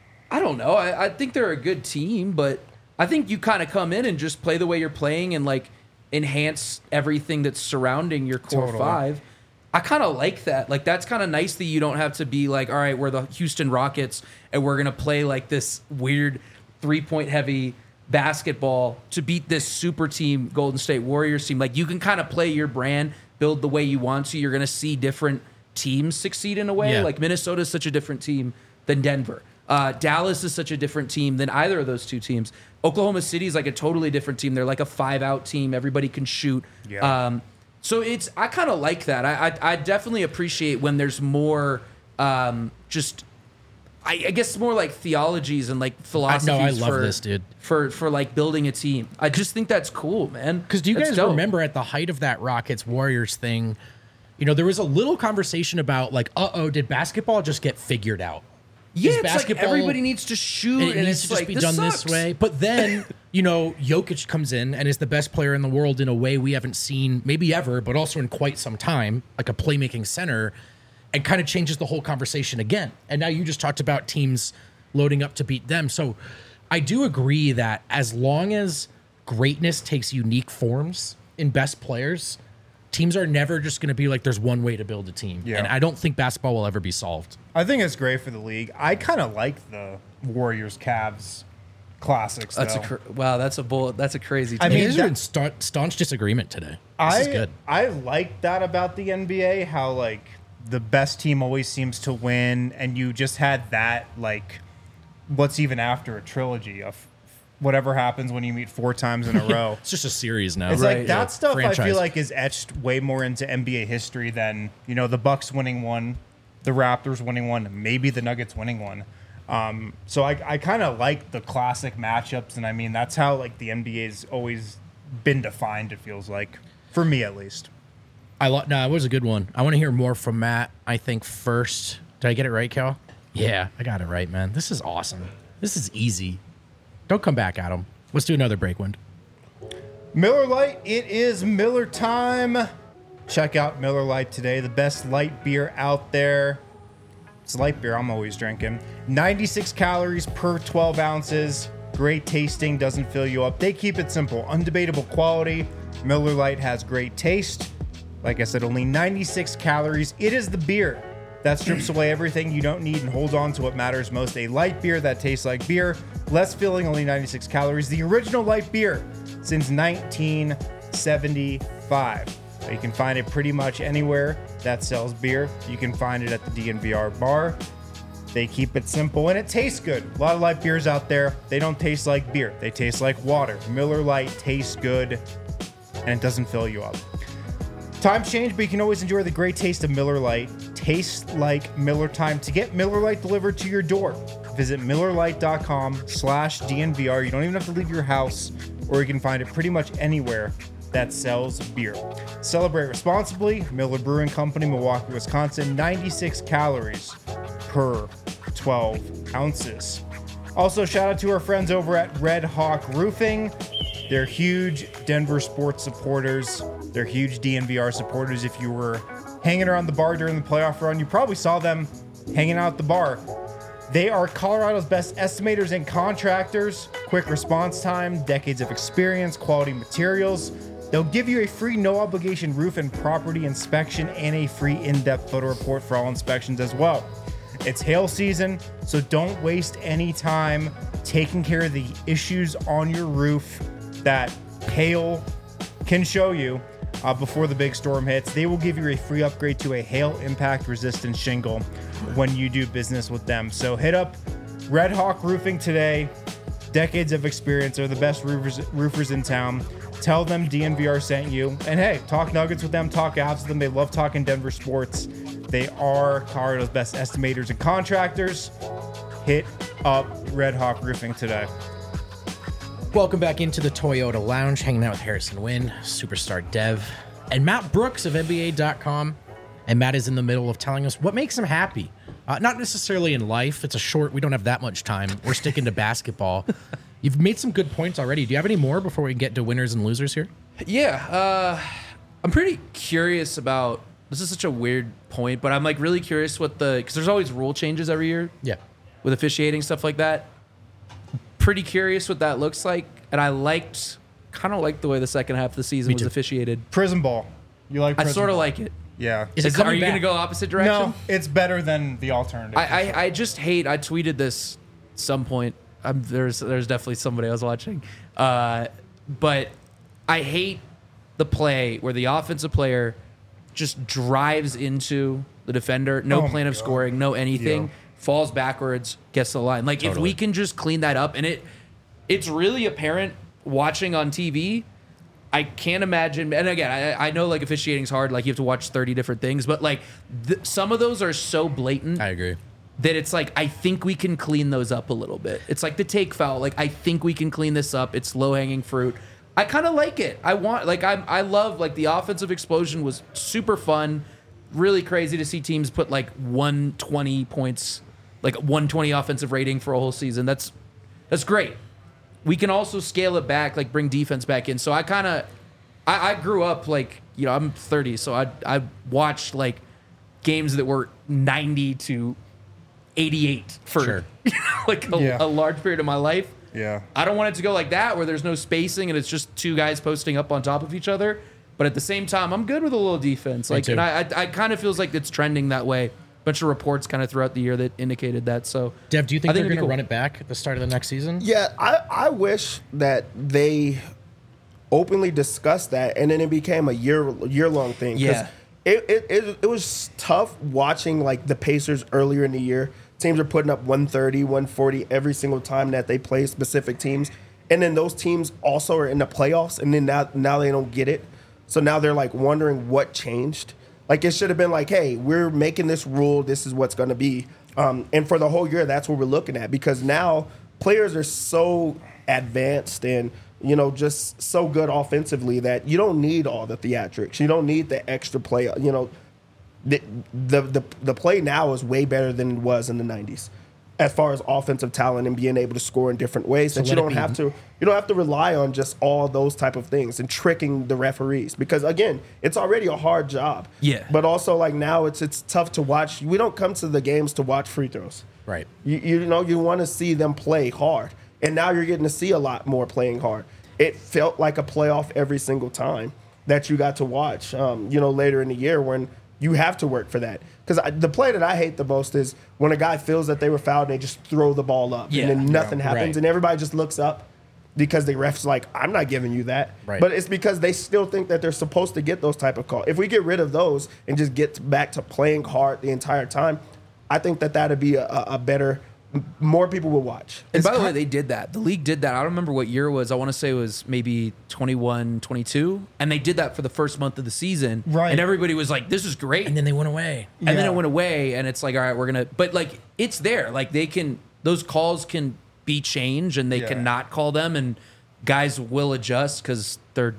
I don't know. I, I think they're a good team, but I think you kind of come in and just play the way you're playing and like enhance everything that's surrounding your core Totally. five. I kind of like that. Like that's kind of nice that you don't have to be like, all right, we're the Houston Rockets and we're gonna play like this weird three point heavy basketball to beat this super team Golden State Warriors team. Like you can kind of play your brand, build the way you want to. You're gonna see different teams succeed in a way. Yeah. Like Minnesota is such a different team than Denver. Uh, Dallas is such a different team than either of those two teams. Oklahoma City is like a totally different team. They're like a five out team. Everybody can shoot. Yeah. Um, so it's I kind of like that. I, I I definitely appreciate when there's more um, just I, I guess more like theologies and like philosophies. I love for, this, dude. For for like building a team. I just think that's cool, man. Because do you That's guys dope. remember at the height of that Rockets Warriors thing, you know, there was a little conversation about like, uh oh, did basketball just get figured out? Yeah, Is it's like basketball- everybody needs to shoot, It and needs it's to just like be this done sucks. this way. But then, you know, Jokic comes in and is the best player in the world in a way we haven't seen maybe ever, but also in quite some time, like a playmaking center, and kind of changes the whole conversation again. And now you just talked about teams loading up to beat them. So I do agree that as long as greatness takes unique forms in best players, teams are never just going to be like, there's one way to build a team. Yeah. And I don't think basketball will ever be solved. I think it's great for the league. I kind of like the Warriors Cavs classics. That's a though. cr- wow. That's a bull. That's a crazy. I I take. mean, mean, there's that- been sta- staunch disagreement today. This I is good. I like that about the N B A. How like the best team always seems to win, and you just had that like what's even after a trilogy of whatever happens when you meet four times in a row. It's just a series now. It's Right, like yeah. that stuff. I Franchise. feel like is etched way more into N B A history than you know the Bucks winning one, the Raptors winning one, maybe the Nuggets winning one. Um, so I, I kind of like the classic matchups, and I mean that's how like the N B A's always been defined. It feels like, for me at least. I lo- no, it was a good one. I want to hear more from Matt. I think first. Did I get it right, Cal? Yeah, I got it right, man. This is awesome. This is easy. Don't come back at him. Let's do another Breakwind. Miller Lite, it is Miller time. Check out Miller Lite today, the best light beer out there. It's light beer I'm always drinking. ninety-six calories per twelve ounces. Great tasting, doesn't fill you up. They keep it simple. Undebatable quality. Miller Lite has great taste. Like I said, only ninety-six calories. It is the beer that strips away everything you don't need and holds on to what matters most. A light beer that tastes like beer. Less filling, only ninety-six calories. The original light beer since nineteen seventy-five. You can find it pretty much anywhere that sells beer. You can find it at the D N V R bar. They keep it simple and it tastes good. A lot of light beers out there, they don't taste like beer. They taste like water. Miller Lite tastes good and it doesn't fill you up. Times change, but you can always enjoy the great taste of Miller Lite. Tastes like Miller time. To get Miller Lite delivered to your door, visit MillerLite.com slash DNVR. You don't even have to leave your house, or you can find it pretty much anywhere that sells beer. Celebrate responsibly. Miller Brewing Company, Milwaukee, Wisconsin. ninety-six calories per twelve ounces. Also, shout out to our friends over at Red Hawk Roofing. They're huge Denver sports supporters. They're huge D N V R supporters. If you were hanging around the bar during the playoff run, you probably saw them hanging out at the bar. They are Colorado's best estimators and contractors. Quick response time, decades of experience, quality materials. They'll give you a free no-obligation roof and property inspection and a free in-depth photo report for all inspections as well. It's hail season, so don't waste any time taking care of the issues on your roof that hail can show you uh, before the big storm hits. They will give you a free upgrade to a hail impact resistant shingle when you do business with them. So hit up Red Hawk Roofing today. Decades of experience. They're the best roofers, roofers in town. Tell them D N V R sent you. And hey, talk Nuggets with them, talk Avs with them. They love talking Denver sports. They are Colorado's best estimators and contractors. Hit up Red Hawk Roofing today. Welcome back into the Toyota Lounge, hanging out with Harrison Wynn, superstar dev, and Matt Brooks of N B A dot com. And Matt is in the middle of telling us what makes him happy. Uh, not necessarily in life. It's a short, we don't have that much time. We're sticking to basketball. You've made some good points already. Do you have any more before we get to winners and losers here? Yeah, uh, I'm pretty curious about, this is such a weird point, but I'm like really curious what the, because there's always rule changes every year. Yeah. With officiating, stuff like that. Pretty curious what that looks like. And I liked, kind of liked the way the second half of the season Me was too. officiated. Prison ball. You like I prison sort of ball? like it. Yeah. Is it Is- are coming you going to back? go opposite direction? No, it's better than the alternative. I, I, I just hate. I tweeted this some point. I'm, there's there's definitely somebody I was watching, uh, but I hate the play where the offensive player just drives into the defender, no Oh my plan of God. scoring, no anything, Yeah. falls backwards, gets to the line. Like if Totally. we can just clean that up, and it it's really apparent watching on T V. I can't imagine, and again, I, I know like officiating's hard, like you have to watch thirty different things, but like th- some of those are so blatant I agree. that it's like, I think we can clean those up a little bit. It's like the take foul. Like, I think we can clean this up. It's low hanging fruit. I kind of like it. I want, like, I I love, like, the offensive explosion was super fun. Really crazy to see teams put, like, one twenty points, like, one twenty offensive rating for a whole season. That's, that's great. We can also scale it back, like, bring defense back in. So I kind of, I, I grew up, like, you know, I'm thirty, so I, I watched, like, games that were ninety to eighty-eight for Sure. like a, Yeah. a large period of my life. Yeah. I don't want it to go like that where there's no spacing and it's just two guys posting up on top of each other. But at the same time, I'm good with a little defense. Like, too. and I, I, I kind of feels like it's trending that way. A bunch of reports kind of throughout the year that indicated that. So, Dev, do you think, I they're it'd be going to cool. run it back at the start of the next season? Yeah, I, I wish that they openly discussed that and then it became a year year long thing. 'Cause Yeah. It, it, it, it was tough watching like the Pacers earlier in the year. Teams are putting up one thirty, one forty every single time that they play specific teams. And then those teams also are in the playoffs and then now, now they don't get it. So now they're like wondering what changed. Like it should have been like, hey, we're making this rule. This is what's going to be. Um, and for the whole year, that's what we're looking at because now players are so advanced and you know, just so good offensively that you don't need all the theatrics. You don't need the extra play. You know, the the the, the play now is way better than it was in the nineties. As far as offensive talent and being able to score in different ways, So that you let it don't be- have to you don't have to rely on just all those type of things and tricking the referees, because again, it's already a hard job. Yeah. But also, like, now it's it's tough to watch. We don't come to the games to watch free throws. Right. You, you know, you want to see them play hard. And now you're getting to see a lot more playing hard. It felt like a playoff every single time that you got to watch, um, you know, later in the year when you have to work for that. Because the play that I hate the most is when a guy feels that they were fouled and they just throw the ball up. Yeah. And then nothing Yeah, happens. right. And everybody just looks up because the ref's like, I'm not giving you that. Right. But it's because they still think that they're supposed to get those type of calls. If we get rid of those and just get back to playing hard the entire time, I think that that'd be a, a a better, more people will watch. And by the way, they did that. The league did that. I don't remember what year it was. I want to say it was maybe twenty-one, twenty-two. And they did that for the first month of the season. Right. And everybody was like, this is great. And then they went away. And then Yeah. it went away, and it's like, all right, we're gonna. But like, it's there. Like they can, those calls can be changed, and they Yeah. can not call them, and guys will adjust because they're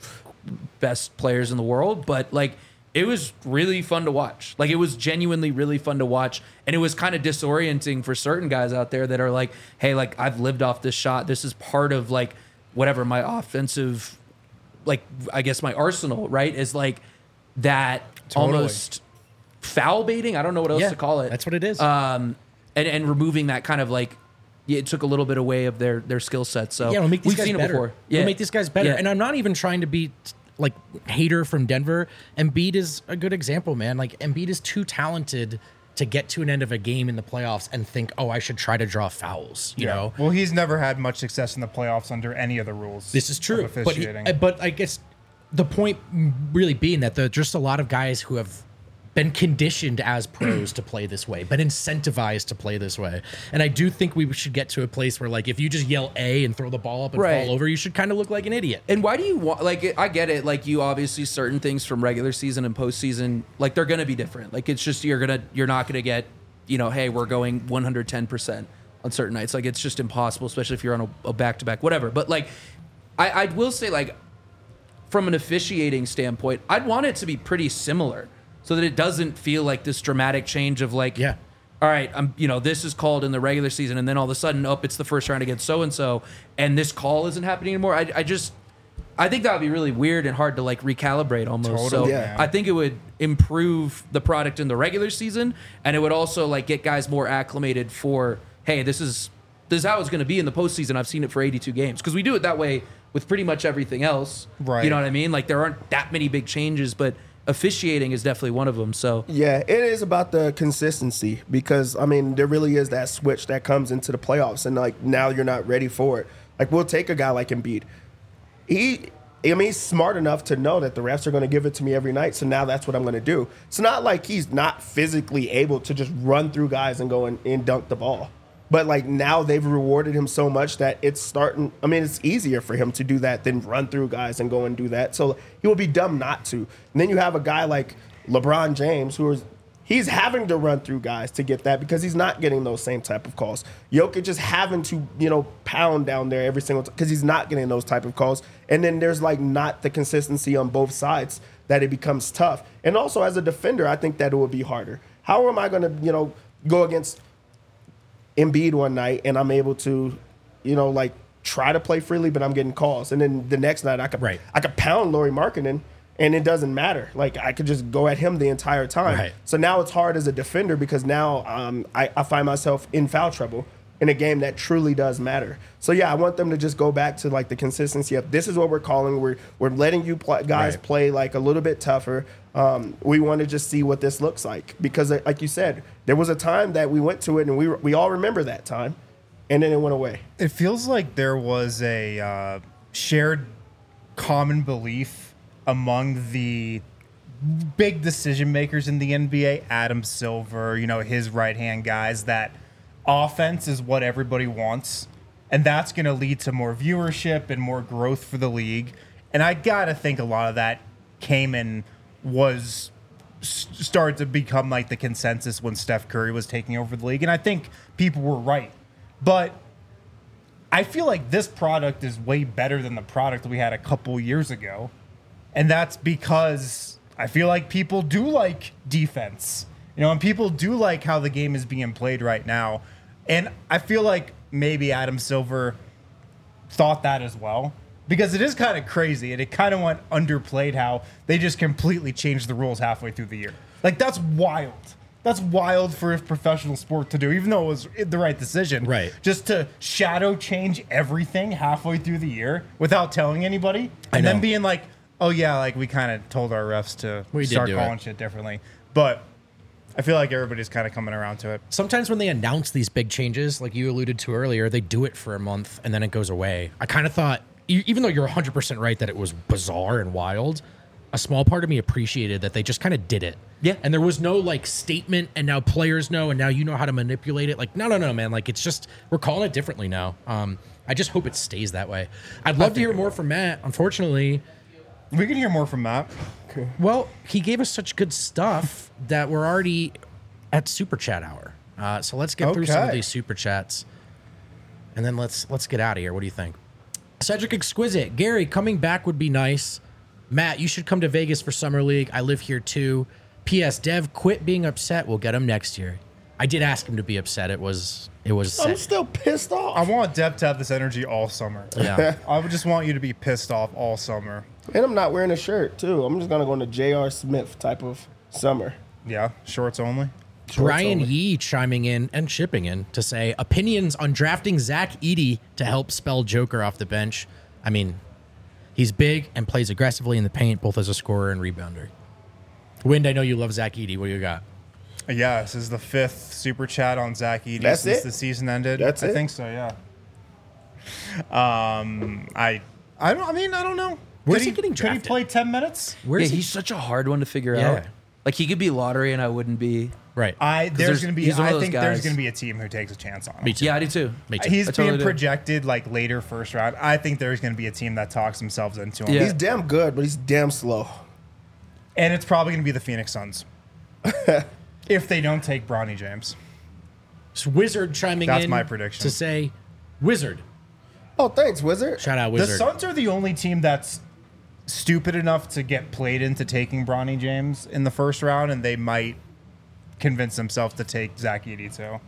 best players in the world. But like, it was really fun to watch. Like it was genuinely really fun to watch, and it was kind of disorienting for certain guys out there that are like, hey, like I've lived off this shot. This is part of like whatever my offensive, like I guess my arsenal, right? Is like that Totally. almost foul baiting. I don't know what else Yeah, to call it. that's what it is. Um, and and removing that kind of like, yeah, it took a little bit away of their their skill set. So Yeah, we'll make these we've guys seen better. it before. We'll make these guys better. Yeah. And I'm not even trying to be like hater from Denver. Embiid is a good example, man. Like Embiid is too talented to get to an end of a game in the playoffs and think, oh, I should try to draw fouls. You know, Well, he's never had much success in the playoffs under any of the rules. this is true. of But he, officiating. but I guess the point really being that there are just a lot of guys who have been conditioned as pros to play this way, been incentivized to play this way. And I do think we should get to a place where, like, if you just yell A and throw the ball up and Right. fall over, you should kind of look like an idiot. And why do you want, like, I get it. Like, you obviously, certain things from regular season and postseason, like, they're going to be different. Like, it's just, you're going to, you're not going to get, you know, hey, we're going one hundred ten percent on certain nights. Like, it's just impossible, especially if you're on a, a back-to-back, whatever. But, like, I, I will say, like, from an officiating standpoint, I'd want it to be pretty similar so that it doesn't feel like this dramatic change of, like, Yeah. all right, I'm, you know, this is called in the regular season, and then all of a sudden, oh, it's the first round against so and so, and this call isn't happening anymore. I, I just, I think that would be really weird and hard to like recalibrate almost. so Totally, yeah. I think it would improve the product in the regular season, and it would also like get guys more acclimated for, hey, this is this is how it's going to be in the postseason. I've seen it for eighty-two games because we do it that way with pretty much everything else. Right. You know what I mean? Like there aren't that many big changes, but officiating is definitely one of them. So Yeah, it is about the consistency because I mean there really is that switch that comes into the playoffs, and like now you're not ready for it. Like we'll take a guy like Embiid. He, I mean, he's smart enough to know that the refs are going to give it to me every night, so now that's what I'm going to do. It's not like he's not physically able to just run through guys and go and, and dunk the ball. But like now they've rewarded him so much that it's starting. I mean, it's easier for him to do that than run through guys and go and do that. So he will be dumb not to. And then you have a guy like LeBron James who is he's having to run through guys to get that because he's not getting those same type of calls. Jokic just having to you know pound down there every single time because he's not getting those type of calls. And then there's like not the consistency on both sides that it becomes tough. And also as a defender, I think that it would be harder. How am I going to you know go against Embiid one night and I'm able to, you know, like try to play freely, but I'm getting calls. And then the next night I could Right. I could pound Lauri Markkanen and it doesn't matter. Like I could just go at him the entire time. Right. So now it's hard as a defender because now um, I, I find myself in foul trouble in a game that truly does matter. So yeah, I want them to just go back to like the consistency of this is what we're calling. We're we're letting you pl- guys Right. play like a little bit tougher. Um, we want to just see what this looks like because, like you said, there was a time that we went to it and we we all remember that time, and then it went away. It feels like there was a uh, shared common belief among the big decision makers in the N B A, Adam Silver, you know, his right hand guys, that offense is what everybody wants, and that's going to lead to more viewership and more growth for the league. And I gotta think a lot of that came and was s- started to become like the consensus when Steph Curry was taking over the league, and I think people were right, but I feel like this product is way better than the product we had a couple years ago. And that's because I feel like people do like defense. You know, and people do like how the game is being played right now. And I feel like maybe Adam Silver thought that as well. Because it is kind of crazy, and it kind of went underplayed how they just completely changed the rules halfway through the year. Like, that's wild. That's wild for a professional sport to do, even though it was the right decision. Right. Just to shadow change everything halfway through the year without telling anybody. I And know. then being like, oh, yeah, like, we kind of told our refs to We did start do calling it. shit differently. But I feel like everybody's kind of coming around to it. Sometimes when they announce these big changes, like you alluded to earlier, they do it for a month and then it goes away. I kind of thought, e- even though you're one hundred percent right that it was bizarre and wild, a small part of me appreciated that they just kind of did it. Yeah. And there was no like statement and now players know and now you know how to manipulate it. Like, no, no, no, man. Like, it's just, we're calling it differently now. Um, I just hope it stays that way. I'd love to hear more from Matt. Unfortunately, We can hear more from Matt. well, he gave us such good stuff that we're already at super chat hour. Uh, so let's get through some of Okay. these super chats, and then let's let's get out of here. What do you think? Cedric Exquisite, Gary, coming back would be nice. Matt, you should come to Vegas for Summer League. I live here too. P S. Dev, quit being upset. We'll get him next year. I did ask him to be upset. It was it was. I'm Sad. still pissed off. I want Dev to have this energy all summer. Yeah. I would just want you to be pissed off all summer. And I'm not wearing a shirt, too. I'm just going to go into J R. Smith type of summer. Yeah, shorts only. Brian only. Yee chiming in and shipping in to say opinions on drafting Zach Edey to help spell Joker off the bench. I mean, he's big and plays aggressively in the paint, both as a scorer and rebounder. Wind, I know you love Zach Edey. What do you got? Yeah, this is the fifth super chat on Zach Edey That's since it? the season ended. That's I it? think so. Yeah. Um, I, I don't. I mean, I don't know. Where's Could he getting Could drafted? he play ten minutes? Where's yeah, he? he's such a hard one to figure Yeah. out. Like, he could be lottery, and I wouldn't be. Right. I there's, there's- going to be. he's one of I those think there's guys. going to be a team who takes a chance on him. Me too. Yeah, I do too. Me too. He's I totally being do. projected like later first round. I think there's going to be a team that talks themselves into him. Yeah. He's damn good, but he's damn slow. And it's probably going to be the Phoenix Suns if they don't take Bronny James. So Wizard chiming That's in my prediction. to say Wizard. Oh, thanks, Wizard. Shout out The Wizard. Suns are the only team that's stupid enough to get played into taking Bronny James in the first round, and they might convince themselves to take Zach Edey too.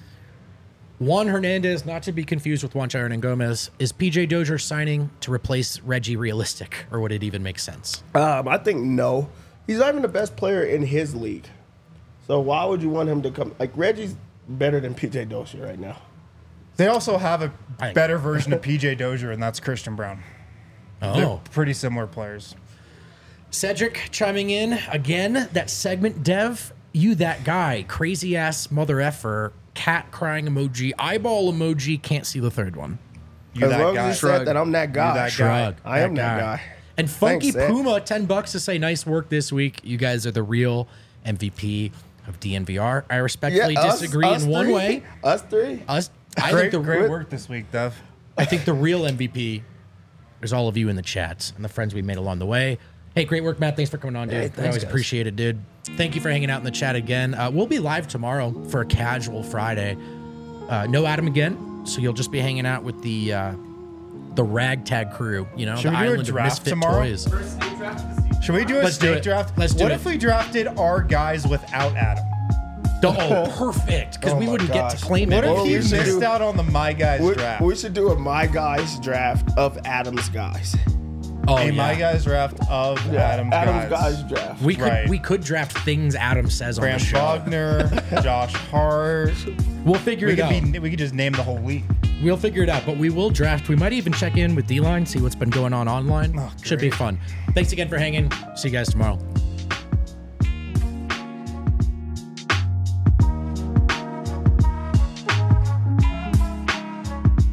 Juan Hernandez, not to be confused with Juan Chiron and Gomez, is P J Dozier signing to replace Reggie realistic, or would it even make sense? Um, I think no. He's not even the best player in his league. So why would you want him to come? Like, Reggie's better than P J Dozier right now. They also have a I- better version of P J Dozier, and that's Christian Brown. They're Oh. pretty similar players. Cedric chiming in again. That segment, Dev, you that guy, crazy ass mother effer, cat crying emoji, eyeball emoji, can't see the third one. You As that long guy. as you said that I'm that guy. You that guy. Shrug. I am that guy. And Funky Thanks, Ed. Puma, ten bucks to say nice work this week. You guys are the real M V P of D N V R. I respectfully us- disagree us in one three? way. Us three? Us, I Great, think the great real, work this week, Dev. I think the real M V P is all of you in the chats and the friends we made along the way. Hey, great work, Matt. Thanks for coming on, dude. Hey, I thanks, always guys. appreciate it, dude. Thank you for hanging out in the chat again. Uh, we'll be live tomorrow for a casual Friday. Uh, no Adam again, so you'll just be hanging out with the uh, the ragtag crew. You know, Should the we do a island of draft misfit tomorrow? toys. Should we do a Let's do snake it. draft? Let's do what it. if we drafted our guys without Adam? Oh, perfect! Because Oh we my wouldn't get gosh. to claim What it. if Well, he we should missed do- out on the My Guys We, draft? we should do a My Guys draft of Adam's guys. Oh, a yeah. My Guys draft of Adam's, Adam's guys. guys draft. We could Right. we could draft things Adam says on Graham the show. Wagner, Josh Hart. We'll figure We it could out. be. We could just name the whole league. We'll figure it out, but we will draft. We might even check in with D-Line, see what's been going on online. Oh, Should be great. fun. Thanks again for hanging. See you guys tomorrow.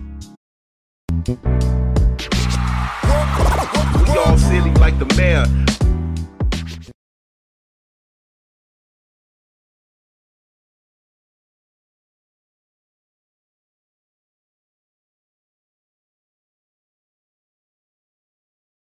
We all silly like the mayor.